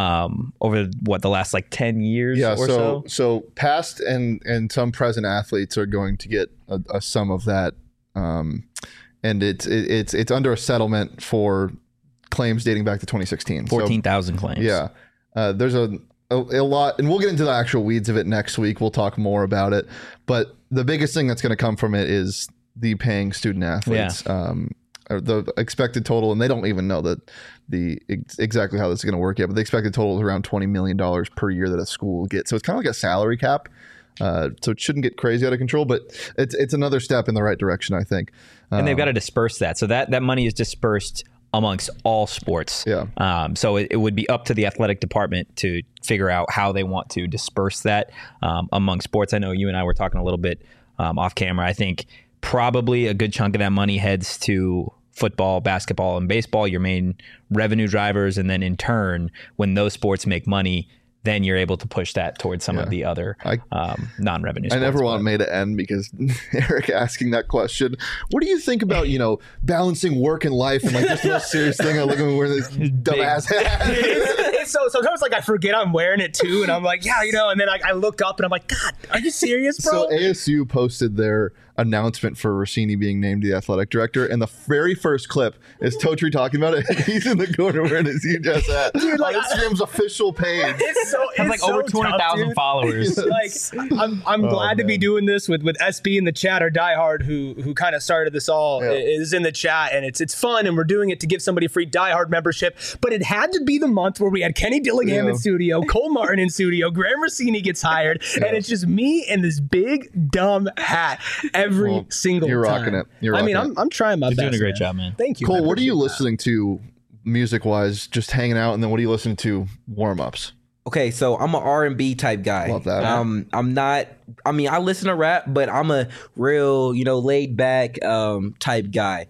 A: um over what the last like ten years
B: yeah,
A: or
B: so
A: so
B: so past and and some present athletes are going to get a, a sum of that, um and it's it, it's it's under a settlement for claims dating back to twenty sixteen.
A: fourteen thousand so, claims.
B: Yeah, uh, there's a, a a lot, and we'll get into the actual weeds of it next week. We'll talk more about it, but the biggest thing that's going to come from it is the paying student athletes. Yeah. um the expected total, and they don't even know that the ex- exactly how this is going to work yet, but the expected total is around twenty million dollars per year that a school will get. So it's kind of like a salary cap. Uh, so it shouldn't get crazy out of control, but it's it's another step in the right direction, I think.
A: And
B: um,
A: they've got to disperse that. So that, that money is dispersed amongst all sports.
B: Yeah.
A: Um, so it, it would be up to the athletic department to figure out how they want to disperse that um, among sports. I know you and I were talking a little bit um, off camera. I think probably a good chunk of that money heads to football, basketball, and baseball, your main revenue drivers. And then in turn, when those sports make money, then you're able to push that towards some
B: yeah.
A: of the other
B: I,
A: um, non-revenue sports.
B: I never want May to end because Eric asking that question, what do you think about, you know, balancing work and life and like just the most serious thing? I look at me wearing this dumbass hat.
D: So sometimes like I forget I'm wearing it too, and I'm like, yeah, you know, and then I, I look up and I'm like, God, are you serious, bro?
B: So A S U posted their announcement for Rossini being named the athletic director, and the very first clip is Totri talking about it. He's in the corner wearing his huge ass hat. Dude, like, on Instagram's official page.
D: It's so it's
A: has like
D: so
A: over twenty thousand followers.
D: Like I'm I'm
B: Oh,
D: glad to be
B: man.
D: doing this with with S B in the chat, or Diehard, who who kind of started this all,
B: Yeah.
D: is in the chat, and it's it's fun, and we're doing it to give somebody a free Diehard membership. But it had to be the month where we had Kenny Dillingham
B: Yeah.
D: in studio, Cole Martin in studio, Graham Rossini gets hired,
B: Yeah.
D: and it's just me and this big dumb hat every
B: Well,
D: single
B: you're
D: time.
B: rocking it. You're
D: I mean,
B: rocking
D: I'm I'm trying my
A: You're
D: best.
A: doing a great
D: man.
A: job, man.
D: Thank you.
B: Cole,
D: I
B: what are you
D: appreciate that.
B: listening to music wise, just hanging out, and then what are you listening to warm ups?
C: Okay, so I'm an R and B type guy.
B: Love that.
C: Um, I'm not. I mean, I listen to rap, but I'm a real, you know, laid back um, type guy.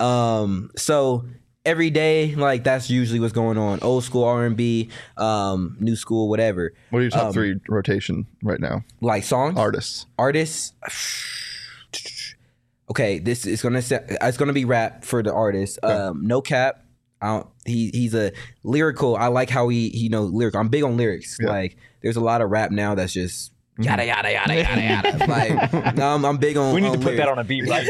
C: Um, so every day, like that's usually what's going on. Old school R and B, um, new school, whatever.
B: What are your top
C: Um,
B: three rotation right now?
C: Like songs,
B: Artists.
C: artists. Okay, this is gonna say, it's gonna be rap for the artist. Um, no cap. I don't, he he's a lyrical. I like how he he knows lyrical. I'm big on lyrics.
B: Yeah.
C: Like there's a lot of rap now that's just yada yada yada yada yada. Like um, I'm big on.
A: We need
C: on
A: to put
C: lyrics.
A: that on a beat right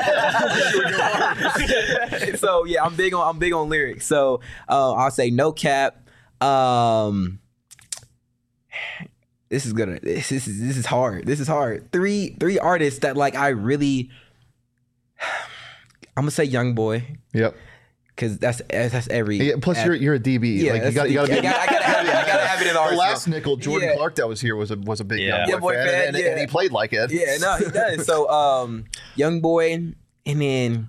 A: now.
C: So yeah, I'm big on I'm big on lyrics. So uh, I'll say no cap. Um, this is gonna this, this is this is hard. This is hard. Three three artists that like I really. I'm gonna say Young Boy
B: Yep.
C: because that's that's every.
B: Yeah, plus, you're you're a D B.
C: Yeah,
B: like you
C: that's
B: got
C: the-
B: you got to
C: I
B: be.
C: gotta- I gotta have it. I gotta have it in the
B: The
C: arsenal.
B: last nickel, Jordan
C: Yeah.
B: Clark, that was here was a was a big
A: Yeah.
B: Young
C: Yeah,
B: Boy
C: boy
B: fan,
C: fan,
B: and,
C: yeah.
B: and he played like it.
C: Yeah, no, he does. So, um, Young Boy, and then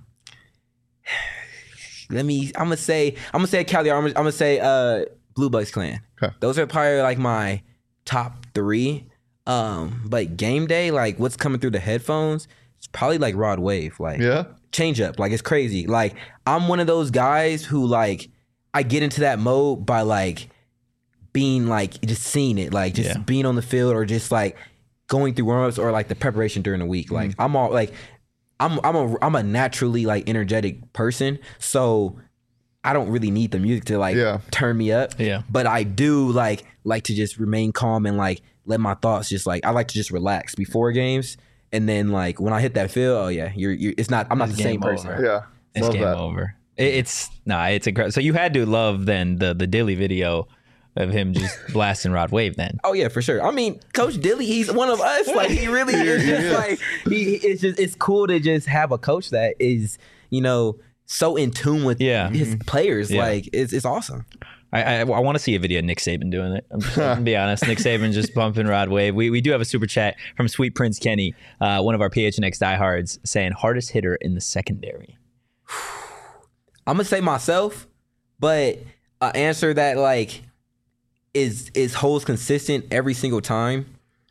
C: let me. I'm gonna say. I'm gonna say Cali. I'm gonna, I'm gonna say uh, Blue Bucks Clan.
B: Okay.
C: Those are probably like my top three. Um, but game day, like what's coming through the headphones, it's probably like Rod Wave. Like
B: Yeah.
C: change up. Like it's crazy. Like I'm one of those guys who like I get into that mode by like being like just seeing it, like just
A: Yeah.
C: being on the field or just like going through warm-ups or like the preparation during the week. Like I'm all like I'm I'm a I'm a naturally like energetic person. So I don't really need the music to like
B: Yeah.
C: turn me up.
A: Yeah.
C: But I do like like to just remain calm and like let my thoughts just like I like to just relax before games. And then like when I hit that field, oh yeah, you're you're it's not I'm not
A: It's
C: the same
A: game
C: person.
A: over.
B: Yeah.
A: It's
B: Love
A: game
B: that.
A: over. It, it's nah, it's incredible. So you had to love then the the Dilly video of him just blasting Rod Wave then.
C: Oh yeah, for sure. I mean, Coach Dilly, he's one of us. Like he really is just like he. It's just it's cool to just have a coach that is you know so in tune with
A: Yeah.
C: his players.
A: Yeah.
C: Like it's it's awesome.
A: I I, I want to see a video of Nick Saban doing it. I'm just gonna be honest. Nick Saban just bumping Rod Wave. We we do have a super chat from Sweet Prince Kenny, uh, one of our P H N X diehards, saying hardest hitter in the secondary.
C: I'm gonna say myself, but an answer that like is is holds consistent every single time.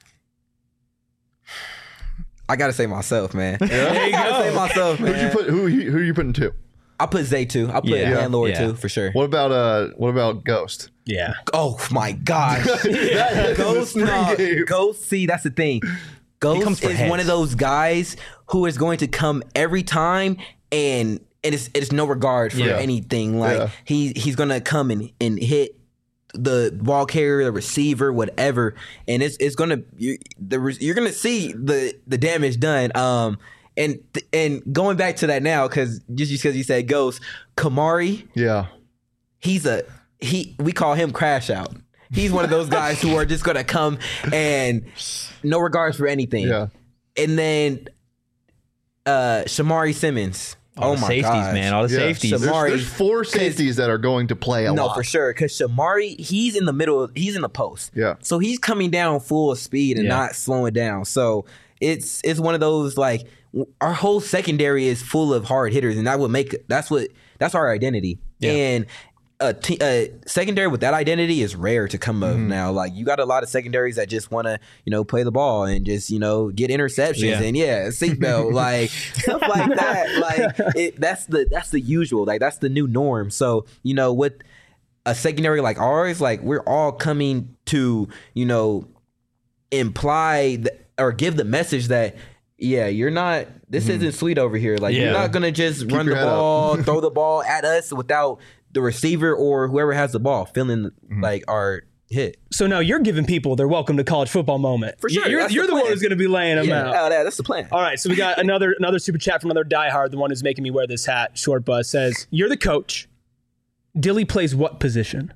C: I gotta say myself, man. I gotta say myself,
B: Who'd you
C: man.
B: put? Who who are you putting two?
C: I put Zay too. I put
A: Yeah.
C: Landlord
A: Yeah.
C: too for sure.
B: What about uh? What about Ghost?
D: Yeah.
C: Oh my gosh.
B: That is
C: Ghost,
B: the
C: no,
B: spring game.
C: Ghost, see, that's the thing. Ghost
A: comes
C: is
A: for
C: one
A: heads.
C: of those guys who is going to come every time and it is it's no regard for
A: Yeah.
C: anything. Like
B: Yeah.
C: he he's gonna come and, and hit the ball carrier, the receiver, whatever, and it's it's gonna you, the re- you're gonna see the the damage done. Um, and and going back to that now, because just because you said Ghost, Kamari,
B: Yeah.
C: he's a he we call him crash out. He's one of those guys who are just gonna come and no regards for anything.
B: Yeah.
C: And then uh Shamari Simmons.
A: All
C: oh
A: the
C: my
A: safeties,
C: gosh.
A: man. All the
B: Yeah.
A: safeties.
B: There's,
C: Shamari-
B: there's four safeties that are going to play a
C: No,
B: lot.
C: for sure. Because Shamari, he's in the middle. He's in the post.
B: Yeah.
C: So he's coming down full speed and
A: Yeah.
C: not slowing down. So it's it's one of those like w- our whole secondary is full of hard hitters, and that would make that's what that's our identity.
A: Yeah.
C: And a, t- a secondary with that identity is rare to come of now. Like you got a lot of secondaries that just want to you know play the ball and just you know get interceptions
A: Yeah.
C: and yeah seatbelt like stuff like that. Like it, that's the that's the usual. Like that's the new norm. So you know with a secondary like ours, like we're all coming to you know imply th- or give the message that yeah, you're not. This isn't sweet over here. Like
A: Yeah.
C: you're not gonna just run the
B: your head up.
C: ball, throw the ball at us without the receiver or whoever has the ball feeling like our hit.
D: So now you're giving people their welcome to college football moment.
C: For sure,
D: You're,
C: that's
D: you're
C: the
D: the one
C: plan.
D: who's going to be laying them
C: Yeah,
D: out.
C: oh, that, that's the plan.
D: All right, so we got another another super chat from another diehard, the one who's making me wear this hat. Short Buzz says, "You're the coach. Dilly plays what position?"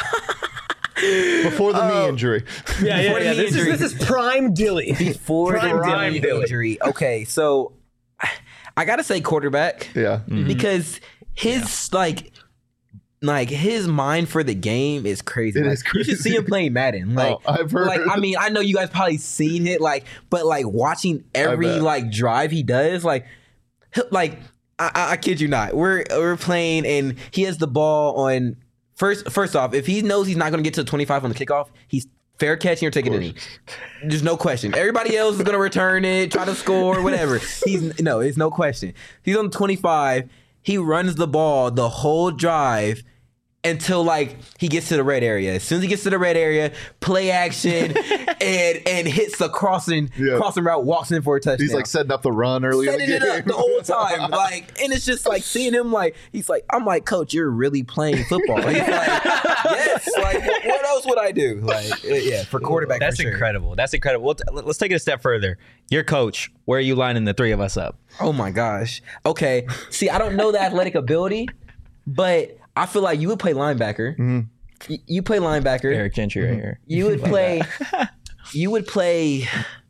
B: Before the knee injury.
D: Yeah, yeah,
C: Before the
D: yeah.
C: knee
D: This is,
C: injury.
D: this is prime Dilly.
C: Before the
D: Prime
C: Dilly
D: Dilly.
C: injury. Okay, so I gotta say quarterback.
B: Yeah.
C: Because his like like his mind for the game is crazy.
B: It
C: Like,
B: is
C: You should see
B: crazy.
C: him playing Madden. Like
B: Oh, I've heard.
C: like I mean, I know you guys probably seen it, like, but like watching every
B: bet.
C: like drive he does, like he'll- like I, I, I kid you not. We're we're playing and he has the ball on first first off, if he knows he's not gonna get to the twenty-five on the kickoff, he's fair catching or taking a knee. There's no question. Everybody else is gonna return it, try to score, whatever. He's no, it's no question. He's on twenty-five. He runs the ball the whole drive until like he gets to the red area. As soon as he gets to the red area, play action and and hits the crossing
B: Yeah.
C: crossing route, walks in for a touchdown.
B: He's like setting up the run early in the
C: setting
B: game.
C: it up the whole time, like, and it's just like seeing him, like, he's like, I'm like, Coach, you're really playing football. He's like, yes, like, what, what else would I do? Like, yeah, for quarterback,
A: That's
C: for sure.
A: incredible. That's incredible. We'll t- let's take it a step further. Your coach, where are you lining the three of us up?
C: Oh my gosh. Okay, see, I don't know the athletic ability, but I feel like you would play linebacker. Y- you play linebacker.
A: Eric Gentry right here.
C: You would play. You would play.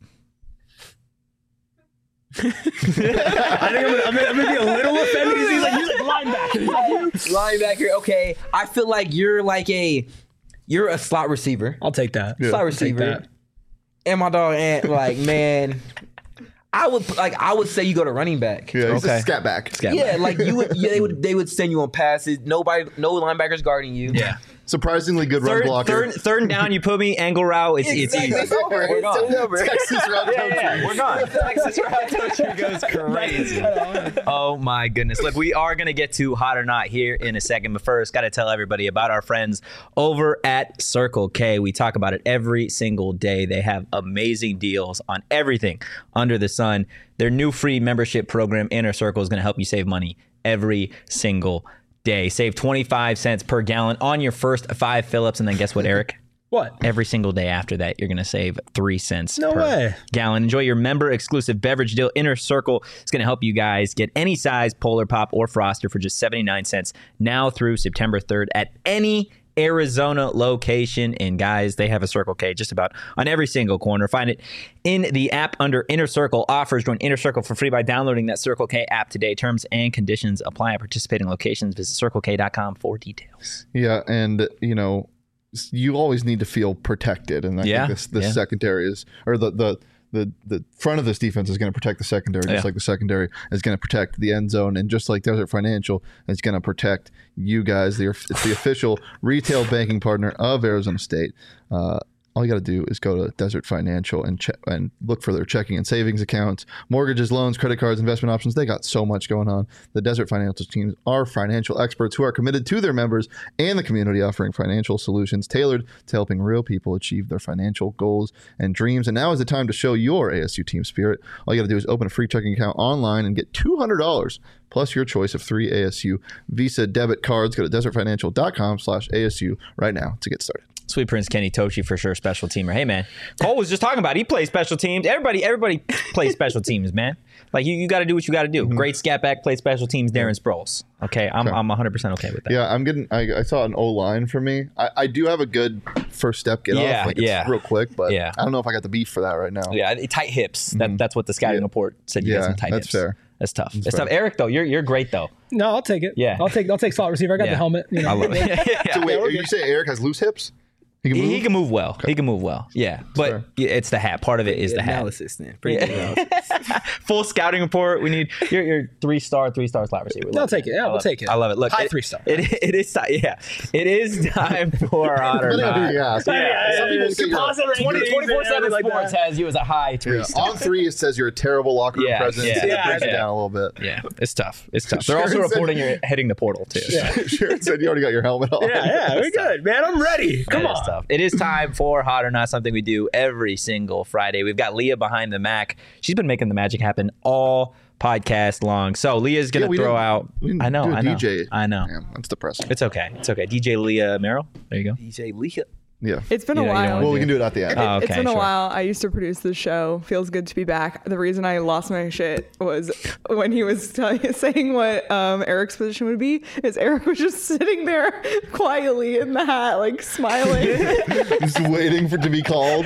D: I think I'm gonna, I'm gonna, I'm gonna be a little offended because he's like, he's like linebacker.
C: Linebacker. Okay, I feel like you're like a, you're a slot receiver.
D: I'll take that.
C: Slot
D: I'll take
C: receiver.
D: that.
C: And my dog Ant, like, man, I would like I would say you go to running back.
B: Yeah, he's
A: Okay.
B: a scat back.
A: Scat
C: Yeah, like you would. Yeah, they would. They would send you on passes. Nobody, no linebackers guarding you.
A: Yeah.
B: surprisingly good run
A: Third,
B: blocker.
A: third, third and down, you put me angle route. It's, it's easy.
C: It's over.
A: We're gone.
C: It's over.
B: Texas route
A: Yeah, yeah, we're gone. Texas route coach goes crazy. Oh my goodness! Look, we are gonna get to hot or not here in a second, but first, got to tell everybody about our friends over at Circle K. We talk about it every single day. They have amazing deals on everything under the sun. Their new free membership program, Inner Circle, is gonna help you save money every single day. Save twenty-five cents per gallon on your first five fill-ups, and then guess what, Eric?
D: What?
A: Every single day after that, you're going to save three cents
D: No
A: per
D: way.
A: gallon. Enjoy your member-exclusive beverage deal. Inner Circle is going to help you guys get any size Polar Pop or Froster for just seventy-nine cents now through September third at any Arizona location. And guys, they have a Circle K just about on every single corner. Find it in the app under Inner Circle Offers. Join Inner Circle for free by downloading that Circle K app today. Terms and conditions apply at participating locations. Visit circle k dot com for details.
B: Yeah, and you know, you always need to feel protected, and I
A: Yeah,
B: think this this
A: yeah.
B: secondary is, or the the the the front of this defense is going to protect the secondary, just
A: Yeah.
B: like the secondary is going to protect the end zone, and just like Desert Financial is going to protect you guys. The it's the official retail banking partner of Arizona State. Uh, all you got to do is go to Desert Financial and check and look for their checking and savings accounts, mortgages, loans, credit cards, investment options. They got so much going on. The Desert Financial teams are financial experts who are committed to their members and the community, offering financial solutions tailored to helping real people achieve their financial goals and dreams. And now is the time to show your A S U team spirit. All you got to do is open a free checking account online and get two hundred dollars plus your choice of three A S U Visa debit cards. Go to desert financial dot com slash A S U right now to get started.
A: Sweet Prince Kenny Tochi for sure, special teamer. Hey man, Cole was just talking about it. He plays special teams. Everybody, everybody plays special teams, man. Like you, you got to do what you got to do.
B: Mm-hmm.
A: Great scat back, play special teams. Darren Sproles. Okay, I'm, I'm one hundred percent okay with that.
B: Yeah, I'm getting. I, I saw an O line for me. I, I do have a good first step get
A: Yeah,
B: off. Like it's
A: yeah.
B: real quick, but
A: Yeah.
B: I don't know if I got the beef for that right now.
A: Yeah, tight hips. That, that's what the scouting
B: Yeah.
A: report said. You
B: Yeah,
A: got some tight
B: that's
A: hips.
B: fair.
A: That's tough. It's
B: fair.
A: tough. Eric, though, you're you're great though.
D: No, I'll take it.
A: Yeah.
D: I'll take I'll take slot receiver. I got
A: Yeah.
D: the helmet. You know.
A: I love it. Yeah.
B: So wait,
D: we're
B: you
D: good.
B: say Eric has loose hips? He can move.
A: He, he can move well. He can move well. Yeah, but
B: fair.
A: yeah, it's the hat. Part of it is the hat.
C: Analysis then. Pretty good analysis.
A: Full scouting report. We need your your three star, three star slot receiver. We
D: I'll
A: love
D: take it. Yeah,
A: I
D: we'll
A: love
D: take it.
A: I love it. Look,
D: High
A: it-
D: three star.
A: It, it is time. Yeah, it is time for hot or
B: Depending on who you
A: not.
B: ask.
A: Yeah,
B: Some people say you're-
D: composite rankings
A: twenty,
D: and
A: twenty-four seven
D: everything like
A: Sports
D: that.
A: has you as a high three
B: Yeah.
A: star.
B: On three, it says you're a terrible locker room
A: Yeah,
B: presence.
A: yeah.
B: It
D: Yeah,
B: brings it
A: yeah.
B: down a little bit.
A: Yeah, it's tough. It's tough. They're
B: Sure
A: also
B: said-
A: reporting you're hitting the portal too.
D: Yeah.
B: Sure said you already got your helmet on.
D: Yeah, yeah, we're good, man. I'm ready. Come
A: That is
D: on.
A: tough. It is time for Hot or Not, something we do every single Friday. We've got Leah behind the Mac. She's been making the magic happen all podcast long. So Leah's
B: Yeah,
A: gonna
B: we
A: throw
B: didn't-
A: out.
B: we didn't
A: I know.
B: do a
A: I know.
B: D J.
A: I know.
B: Damn, that's depressing.
A: It's okay. It's okay. D J Leah Merrill. There you go.
C: D J Leah.
B: Yeah.
E: It's been
A: You
E: a
A: know, you don't
E: while.
A: wanna
B: Well, we can do it at the end.
A: Oh,
E: It's
A: okay,
E: been a
A: sure.
E: while. I used to produce the show. Feels good to be back. The reason I lost my shit was when he was telling, saying what um, Eric's position would be. Is Eric was just sitting there quietly in the hat, like smiling.
B: Just waiting for it to be called.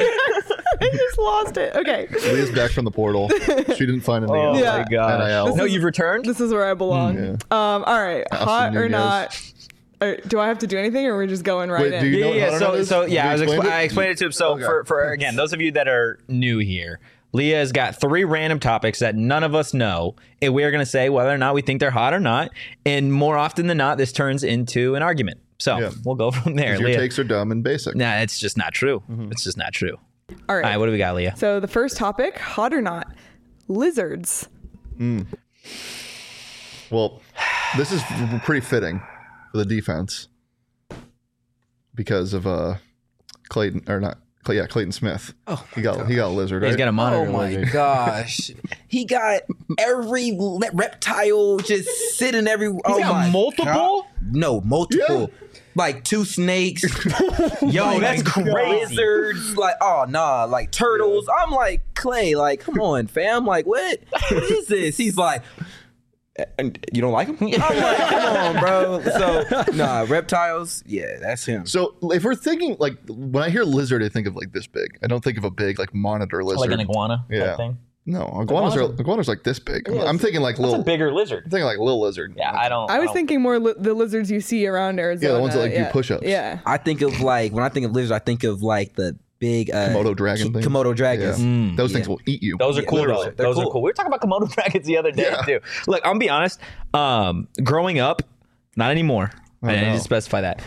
E: I just lost it. Okay,
B: Leah's back from the portal. She didn't find anything
A: Oh
B: else.
E: Yeah.
A: my gosh.
B: N I L.
A: No,
E: is-
A: you've returned.
E: this is where I belong.
B: Yeah.
E: Um, all right, hot
B: Nunez.
E: or not? Uh, do I have to do anything, or are we just going right
B: Wait,
E: in?
B: do you
A: Yeah,
B: know what
A: yeah.
B: Hot or
A: So,
B: Not is?
A: so yeah, I,
B: Have
A: was
B: you
A: expl-
B: explained
A: I
B: it?
A: explained it to him. So,
B: Okay.
A: for, for again, those of you that are new here, Leah has got three random topics that none of us know, and we're going to say whether or not we think they're hot or not. And more often than not, this turns into an argument. So
B: Yeah.
A: we'll go from there.
B: Your
A: Leah.
B: takes are dumb and basic.
A: Nah, it's just not true.
B: Mm-hmm.
A: It's just not true.
E: All right.
A: All right, what do we got, Leah?
E: So the first topic, hot or not? Lizards.
B: Well, this is pretty fitting for the defense because of uh Clayton or not Clay, yeah, Clayton Smith. Oh, he got he got a lizard.
A: He's
B: right?
A: got a monitor.
C: Oh my
A: lizard.
C: gosh. He got every le- reptile just sitting every. oh
A: got
C: my
A: multiple?
C: God. No, multiple. Like two snakes.
A: Yo, that's crazy.
C: Lizards. Like, oh, nah. Like turtles. I'm like, Clay, like, come on, fam. Like, what? What is this? He's like, and you don't like him? I'm like, come on, bro. So, nah, reptiles. Yeah, that's him.
B: So if we're thinking like when I hear lizard, I think of like this big. I don't think of a big like monitor lizard.
A: Like an iguana
B: Yeah.
A: type thing.
B: No, iguanas are
A: Iguanas are-
B: iguanas like this big.
A: Yeah,
B: I'm thinking like
A: It's a
B: little.
A: bigger lizard.
B: I'm thinking like little lizard.
A: Yeah, I don't.
E: I was
A: don't-
E: thinking more li- the lizards you see around Arizona.
B: Yeah, the ones that, like, do
E: yeah.
B: push-ups.
E: Yeah.
C: I think of like, when I think of lizards, I think of like the big uh,
B: Komodo dragon thing.
C: Komodo dragons.
B: Yeah.
A: Mm.
B: Those
C: Yeah.
B: things will eat you.
A: Those are
C: Yeah,
A: cool
C: literally.
A: though.
C: They're
A: Those are
C: cool.
A: cool. We were talking about Komodo dragons the other day
B: Yeah.
A: too. Look, I'm gonna be honest. Um, growing up, not anymore.
B: Oh,
A: I need
B: no.
A: to specify that.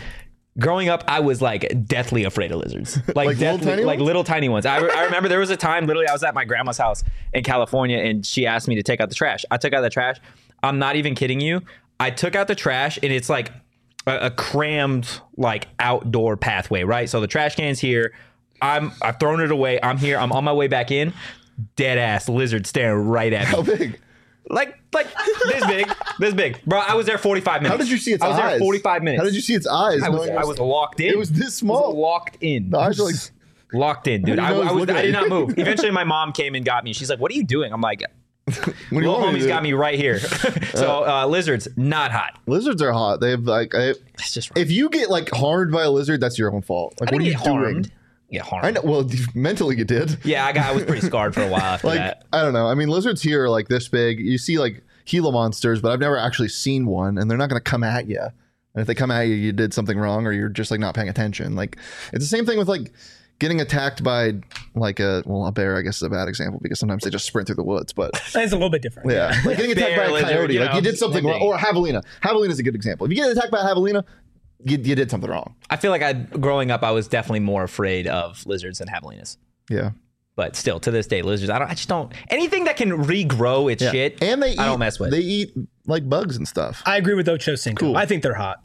A: growing up, I was like deathly afraid of lizards, like,
B: Like little
A: deathly,
B: tiny
A: like
B: ones?
A: little tiny ones. I, re- I remember there was a time, literally, I was at my grandma's house in California, and she asked me to take out the trash. I took out the trash. I'm not even kidding you. I took out the trash, and it's like a, a crammed like outdoor pathway, right? So the trash can's here. I'm I've thrown it away. I'm here. I'm on my way back in. Dead ass lizard staring right at me.
B: How big?
A: Like, like this big, this big, bro. I was there forty-five minutes.
B: How did you see its
A: I was
B: eyes?
A: there forty-five minutes.
B: How did you see its eyes?
A: I was,
B: knowing
A: I was locked in.
B: It was this
A: I was
B: small.
A: locked in.
B: The eyes are like.
A: Locked in, dude.
B: How
A: I,
B: do you know
A: I
B: he's
A: was.
B: looking
A: I
B: at
A: did
B: you?
A: not move. Eventually, my mom came and got me. She's like, "What are you doing?" I'm like,
B: What do you
A: "Little
B: want me to
A: homie's
B: do?
A: got me right here." So uh, lizards, not hot.
B: Lizards are hot. They have like. I,
A: It's just.
B: if you get like harmed by a lizard, that's your own fault. Like,
A: I
B: what are
A: didn't
B: you
A: get
B: doing?
A: harmed. Get harmed.
B: I know. Well, mentally you did.
A: Yeah, I got. I was pretty scarred for a while after
B: Like
A: that.
B: I don't know. I mean, lizards here are like this big. You see like Gila monsters, but I've never actually seen one, and they're not going to come at you. And if they come at you, you did something wrong, or you're just like not paying attention. Like it's the same thing with like getting attacked by like a well a bear. I guess is a bad example because sometimes they just sprint through the woods. But
D: It's a little bit different.
B: yeah, like getting attacked
A: Bear,
B: by a
A: lizard,
B: coyote,
A: you
B: like
A: know,
B: you did something
A: same
B: wrong,
A: thing.
B: or a javelina. Javelina is a good example. If you get attacked by a javelina, you, you did something wrong.
A: I feel like I, growing up, I was definitely more afraid of lizards than javelinas.
B: Yeah.
A: But still, to this day, lizards. I don't. I just don't. Anything that can regrow its
B: Yeah.
A: shit,
B: And they eat,
A: I don't mess with.
B: They eat like bugs and stuff.
D: I agree with Ocho Cinco.
B: Cool.
D: I think they're hot.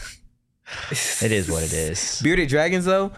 A: It is what it is.
C: Bearded dragons, though,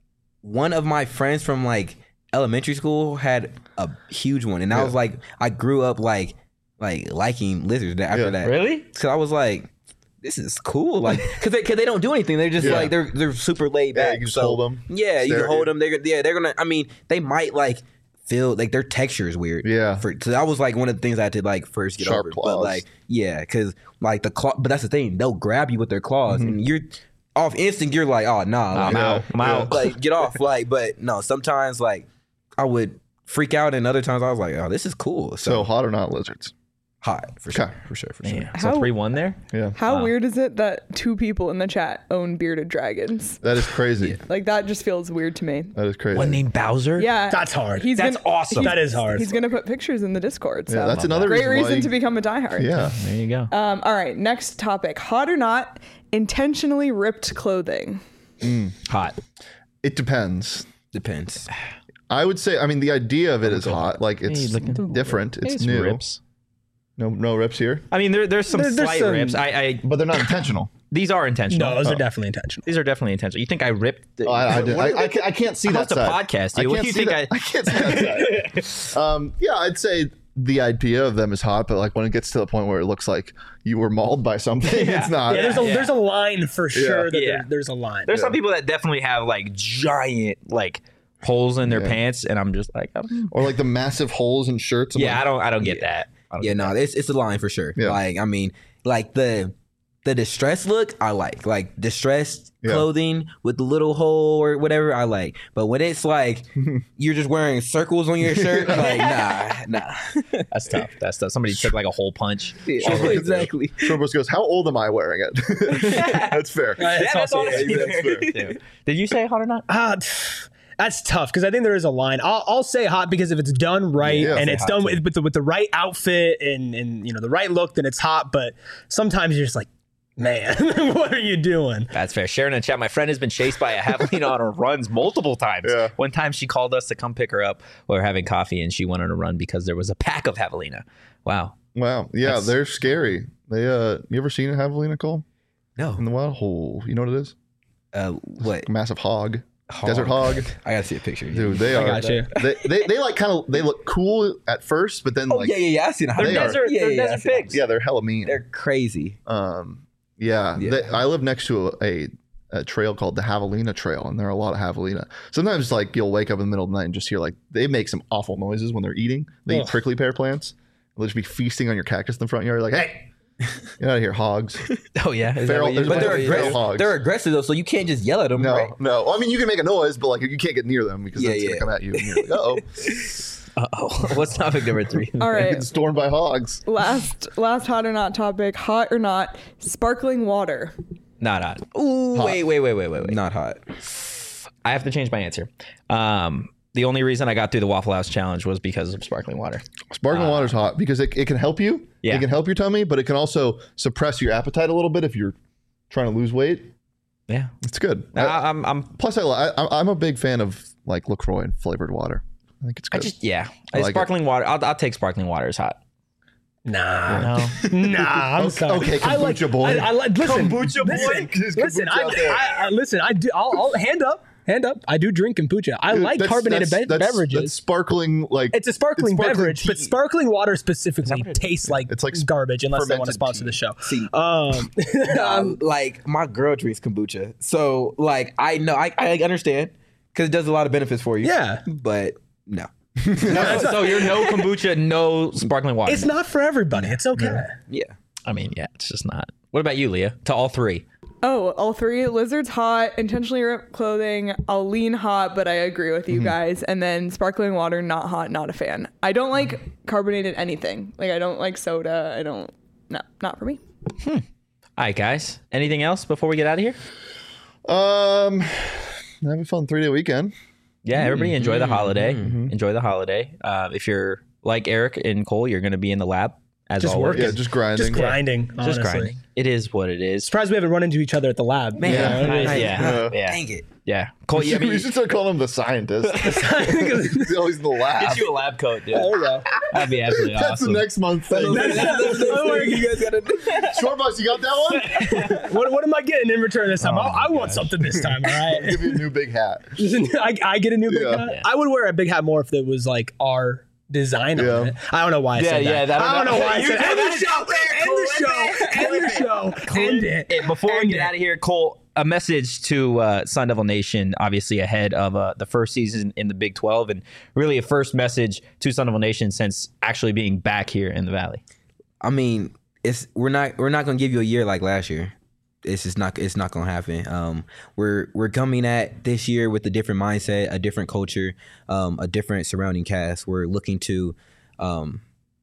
C: one of my friends from like elementary school had a huge one, and I
B: Yeah.
C: was like, I grew up like like liking lizards after
B: Yeah.
C: that.
A: Really?
C: So I was like, this is cool, like because they, cause they don't do anything. They're just
B: Yeah.
C: like they're they're super laid
B: Yeah,
C: back.
B: you can just
C: So,
B: hold 'em,
C: Yeah, you
B: stare
C: can
B: at
C: hold
B: you.
C: them. They're yeah, they're gonna. I mean, they might like feel like their texture is weird.
B: Yeah.
C: For, so that was like one of the things I had to like first get
B: Sharp
C: over.
B: claws.
C: But like yeah, because like the claw. But that's the thing. They'll grab you with their claws,
B: Mm-hmm.
C: and you're off instinct. You're like, oh no,
A: I'm
C: like,
A: out. I'm
B: Yeah.
A: out.
C: like get off. Like, but no. Sometimes like I would freak out, and other times I was like, oh, this is cool. So,
B: So hot or not lizards?
C: hot for sure,
B: Okay.
C: for sure, for sure.
A: Man, so
E: How-
A: three one there.
B: Yeah.
E: How
A: Wow.
E: weird is it that two people in the chat own bearded dragons?
B: That is crazy.
E: Like that just feels weird to me.
B: That is crazy.
A: One named Bowser.
E: Yeah,
D: That's hard.
E: He's
A: That's
E: gonna,
A: awesome.
E: he's-
D: That is hard.
E: He's gonna put pictures in the Discord. So
B: Yeah, that's another
E: great
B: reason,
E: reason,
B: why you-
E: to become a diehard.
B: Yeah.
A: There you go.
E: Um, all right, next topic: hot or not, intentionally ripped clothing.
A: Hot.
B: It depends.
C: Depends.
B: I would say, I mean, the idea of it is hot. Like it's
A: Hey, look at-
B: different. It's
A: It's
B: new.
A: rips.
B: No, no rips here,
A: I mean, there, there's some
D: There- there's
A: slight
D: some-
A: rips. I, I
B: but they're not intentional.
A: these are intentional.
D: No, those are definitely intentional.
A: These are definitely intentional. You think I ripped? The,
B: Oh, I, I,
A: what-
B: did.
A: what
B: I,
A: are
B: I,
A: they-
B: can't, I can't see
A: I
B: that
A: host a
B: side.
A: podcast, dude.
B: I
A: What
B: can't
A: do you
B: see
A: think
B: that-
A: I-
B: I can't see that side. um, yeah, I'd say the idea of them is hot, but like when it gets to the point where it looks like you were mauled by something,
A: Yeah.
B: it's not.
D: Yeah, there's a
A: yeah.
D: there's a line for sure that
A: Yeah.
D: there, there's a line.
A: There's some people that definitely have like giant like holes in their
B: Yeah.
A: pants, and I'm just like, um,
B: Or like the massive holes in shirts. I'm
A: yeah,
B: like,
A: I don't, I don't get that. I don't
C: Yeah,
A: get
C: no, it's it's a line for sure.
B: Yeah.
C: Like I mean, like the the distressed look, I like like distressed
B: Yeah.
C: clothing with the little hole or whatever, I like. But when it's like you're just wearing circles on your shirt, like nah, nah.
A: that. That's tough. That's tough. Somebody took like a hole punch.
C: Yeah, exactly.
B: Shorebros goes, how old am I wearing it? That's fair.
D: Right, it's
A: Yeah, that's
D: also-
A: all
B: Yeah, that's fair.
A: Dude. Did you say hot or not?
D: Ah, pff, that's tough because I think there is a line. I'll, I'll say hot because if it's done right
B: Yeah, I'll
D: and
B: say
D: it's
C: hot
D: done
C: too.
D: with, with, the, with the right outfit and and you know the right look, then it's hot. But sometimes you're just like, man, what are you doing?
A: That's fair. Sharon in chat, my friend has been chased by a javelina on her runs multiple times.
B: Yeah.
A: One time she called us to come pick her up while we were having coffee, and she went on a run because there was a pack of javelina. Wow.
B: Wow. Yeah,
A: That's-
B: they're scary. They uh you ever seen a javelina, Cole?
C: No.
B: In the wild? Oh, you know what it is?
C: Uh, what?
B: Massive hog. Desert hog.
C: I gotta see a picture.
B: Dude, they
D: I
B: are
D: got you.
B: They, they they like kind of they look cool at first, but then
C: Oh
B: like
C: yeah, yeah, yeah. I seen a
A: They're
B: They are-
A: desert,
C: Yeah,
A: they're
C: yeah, I
A: desert
C: see that.
A: pigs.
B: yeah, they're hella mean.
C: They're crazy.
B: Um, yeah,
C: Yeah.
B: They, I live next to a, a, a trail called the Javelina Trail, and there are a lot of javelina. Sometimes, like you'll wake up in the middle of the night and just hear like they make some awful noises when they're eating. They eat
D: Ugh.
B: prickly pear plants. They'll just be feasting on your cactus in the front yard. Like, hey, get out of here, hogs!
A: Oh, yeah. Is that
B: Feral-
A: what you-
B: there's
C: But
B: a
C: they're
B: bunch of feral
C: aggressive.
B: hogs.
C: They're aggressive though, so you can't just yell at them.
B: No,
C: right?
B: no. Well, I mean, you can make a noise, but like you can't get near them because
C: Yeah,
B: it's
C: yeah.
B: gonna come at you. And you're like, oh,
A: Uh-oh. What's topic number three?
E: All right,
B: getting stormed by hogs.
E: last last hot or not topic: hot or not, sparkling water.
A: Not hot. Ooh, wait, wait, wait, wait, wait, wait.
C: Not hot.
A: I have to change my answer. Um, the only reason I got through the Waffle House challenge was because of sparkling water.
B: Sparkling water's hot because it, it can help you.
A: Yeah.
B: It can help your tummy, but it can also suppress your appetite a little bit if you're trying to lose weight.
A: Yeah,
B: It's good.
A: I,
B: I-
A: I'm. I'm.
B: plus, I, li- I I'm a big fan of like LaCroix and flavored water. I think it's
A: I
B: good.
A: just yeah.
B: I like
A: sparkling water. I'll, I'll take sparkling water as hot.
D: Nah,
A: No.
D: nah. I'm
B: Okay,
D: sorry.
B: okay,
D: I like,
B: kombucha boy.
D: I, I like. Listen,
B: Kombucha boy.
D: listen,
B: There's
D: listen.
B: kombucha out there.
D: I, I, I listen. I do. I'll, I'll hand up. Hand up. I do drink kombucha. I
B: Dude,
D: like
B: that's-
D: carbonated
B: that's-
D: be-
B: that's-
D: beverages.
B: That's sparkling, like
D: It's a sparkling,
B: it's sparkling
D: beverage, but
B: tea.
D: sparkling water specifically tastes like
B: It's like
D: garbage unless they want to
B: fermented
D: sponsor
B: tea.
D: the show.
C: See,
D: Um,
C: um, like my girl drinks kombucha, so like I know I, I understand because it does a lot of benefits for you.
D: Yeah.
C: but no.
A: So you're no kombucha, no sparkling water.
D: it's not for everybody. It's okay.
C: Yeah.
A: I mean, yeah, it's just not. What about you, Leah? To all three.
E: Oh, all three. Lizard's hot. Intentionally ripped clothing. I'll lean hot, but I agree with you guys. And then sparkling water, not hot, not a fan. I don't like carbonated anything. Like I don't like soda. I don't. No, not for me.
A: All right, guys. Anything else before we get out of here?
B: Um, have a fun three day weekend.
A: Yeah, everybody enjoy the holiday. Enjoy the holiday. Uh, if you're like Eric and Cole, you're going to be in the lab as
D: Just
A: always.
D: working.
B: Yeah, just grinding.
D: Just grinding.
A: Just
D: honestly.
A: grinding. It is what it is.
D: Surprised we haven't run into each other at the lab.
C: Man,
D: You know, it
C: nice.
D: is-
A: Yeah, yeah,
C: Dang it.
A: yeah. Cole, you, I mean,
B: we should start calling him the scientist. He's always in the lab.
A: get you a lab coat, dude.
D: There we go.
A: That'd be absolutely
B: That's
A: awesome.
B: the next month thing.
D: You guys gotta do.
B: Short boss, you got that one?
D: What, what am I getting in return this time?
A: Oh
D: I, I want something this time, all right?
B: Give you a new big hat.
D: I, I get a new big
B: Yeah.
D: hat.
A: Yeah.
D: I would wear a big hat more if it was like our design
B: Yeah.
D: on it. I don't know why I
A: Yeah,
D: said
A: yeah,
D: that.
A: that-
D: I don't know why I
A: You
D: said
A: said
D: end
A: that
D: the
A: is
D: show.
A: out there.
D: End the show. End the show. End it.
A: Hey, before we
D: End
A: get
D: it.
A: out of here, Cole, a message to uh, Sun Devil Nation, obviously ahead of uh, the first season in the Big twelve, and really a first message to Sun Devil Nation since actually being back here in the Valley.
C: I mean, it's we're not we're not gonna give you a year like last year. It's just not it's not gonna happen. Um, we're we're coming at this year with a different mindset, a different culture, um, a different surrounding cast. We're looking to um,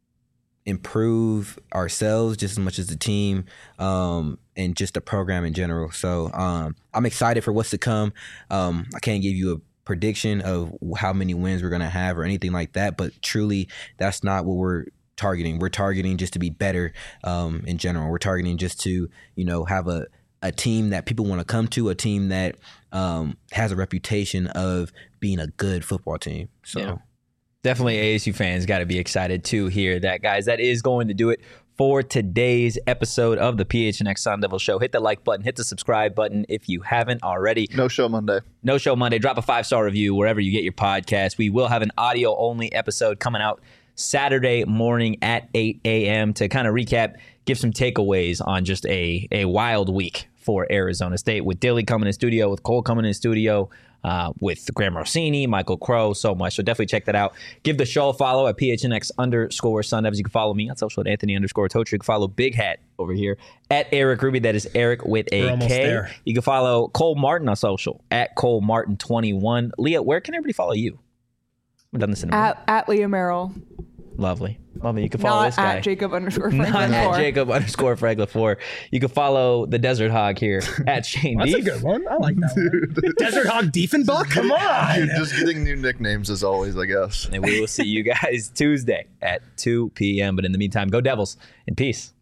C: improve ourselves just as much as the team, um, and just the program in general. So um, I'm excited for what's to come. Um, I can't give you a prediction of how many wins we're gonna have or anything like that, but truly, that's not what we're targeting. We're targeting just to be better um, in general. We're targeting just to, you know, have a, a team that people want to come to, a team that um, has a reputation of being a good football team. So
A: Yeah. Definitely A S U fans got to be excited to hear that, guys. That is going to do it for today's episode of the P H N X Sun Devil Show. Hit the like button, hit the subscribe button if you haven't already.
B: No show Monday.
A: No Show Monday. Drop a five-star review wherever you get your podcast. We will have an audio-only episode coming out Saturday morning at eight a.m. to kind of recap, give some takeaways on just a, a wild week for Arizona State, with Dilly coming in studio, with Cole coming in studio, uh, with Graham Rossini, Michael Crow, so much. So definitely check that out. Give the show a follow at P H N X underscore Sun Devils. You can follow me on social at Anthony underscore Tocher. You can follow Big Hat over here at Eric Ruby. That is Eric with
D: We're
A: a
D: almost
A: K.
D: there.
A: You can follow Cole Martin on social at Cole Martin twenty-one. Leah, where can everybody follow you? We've done this in a minute.
E: At at Leah Merrill,
A: Lovely. Lovely. You can follow
E: not
A: this guy.
E: at Jacob underscore
A: Not
E: Franklin
A: at
E: four.
A: Jacob underscore Fragla four. You can follow the Desert Hog here at Shane
D: That's a
A: Deef.
D: good one. I like that one. Desert Hog Diefenbach? Come on.
B: Dude, just getting new nicknames as always, I guess.
A: And we will see you guys Tuesday at two p.m. But in the meantime, go Devils and peace.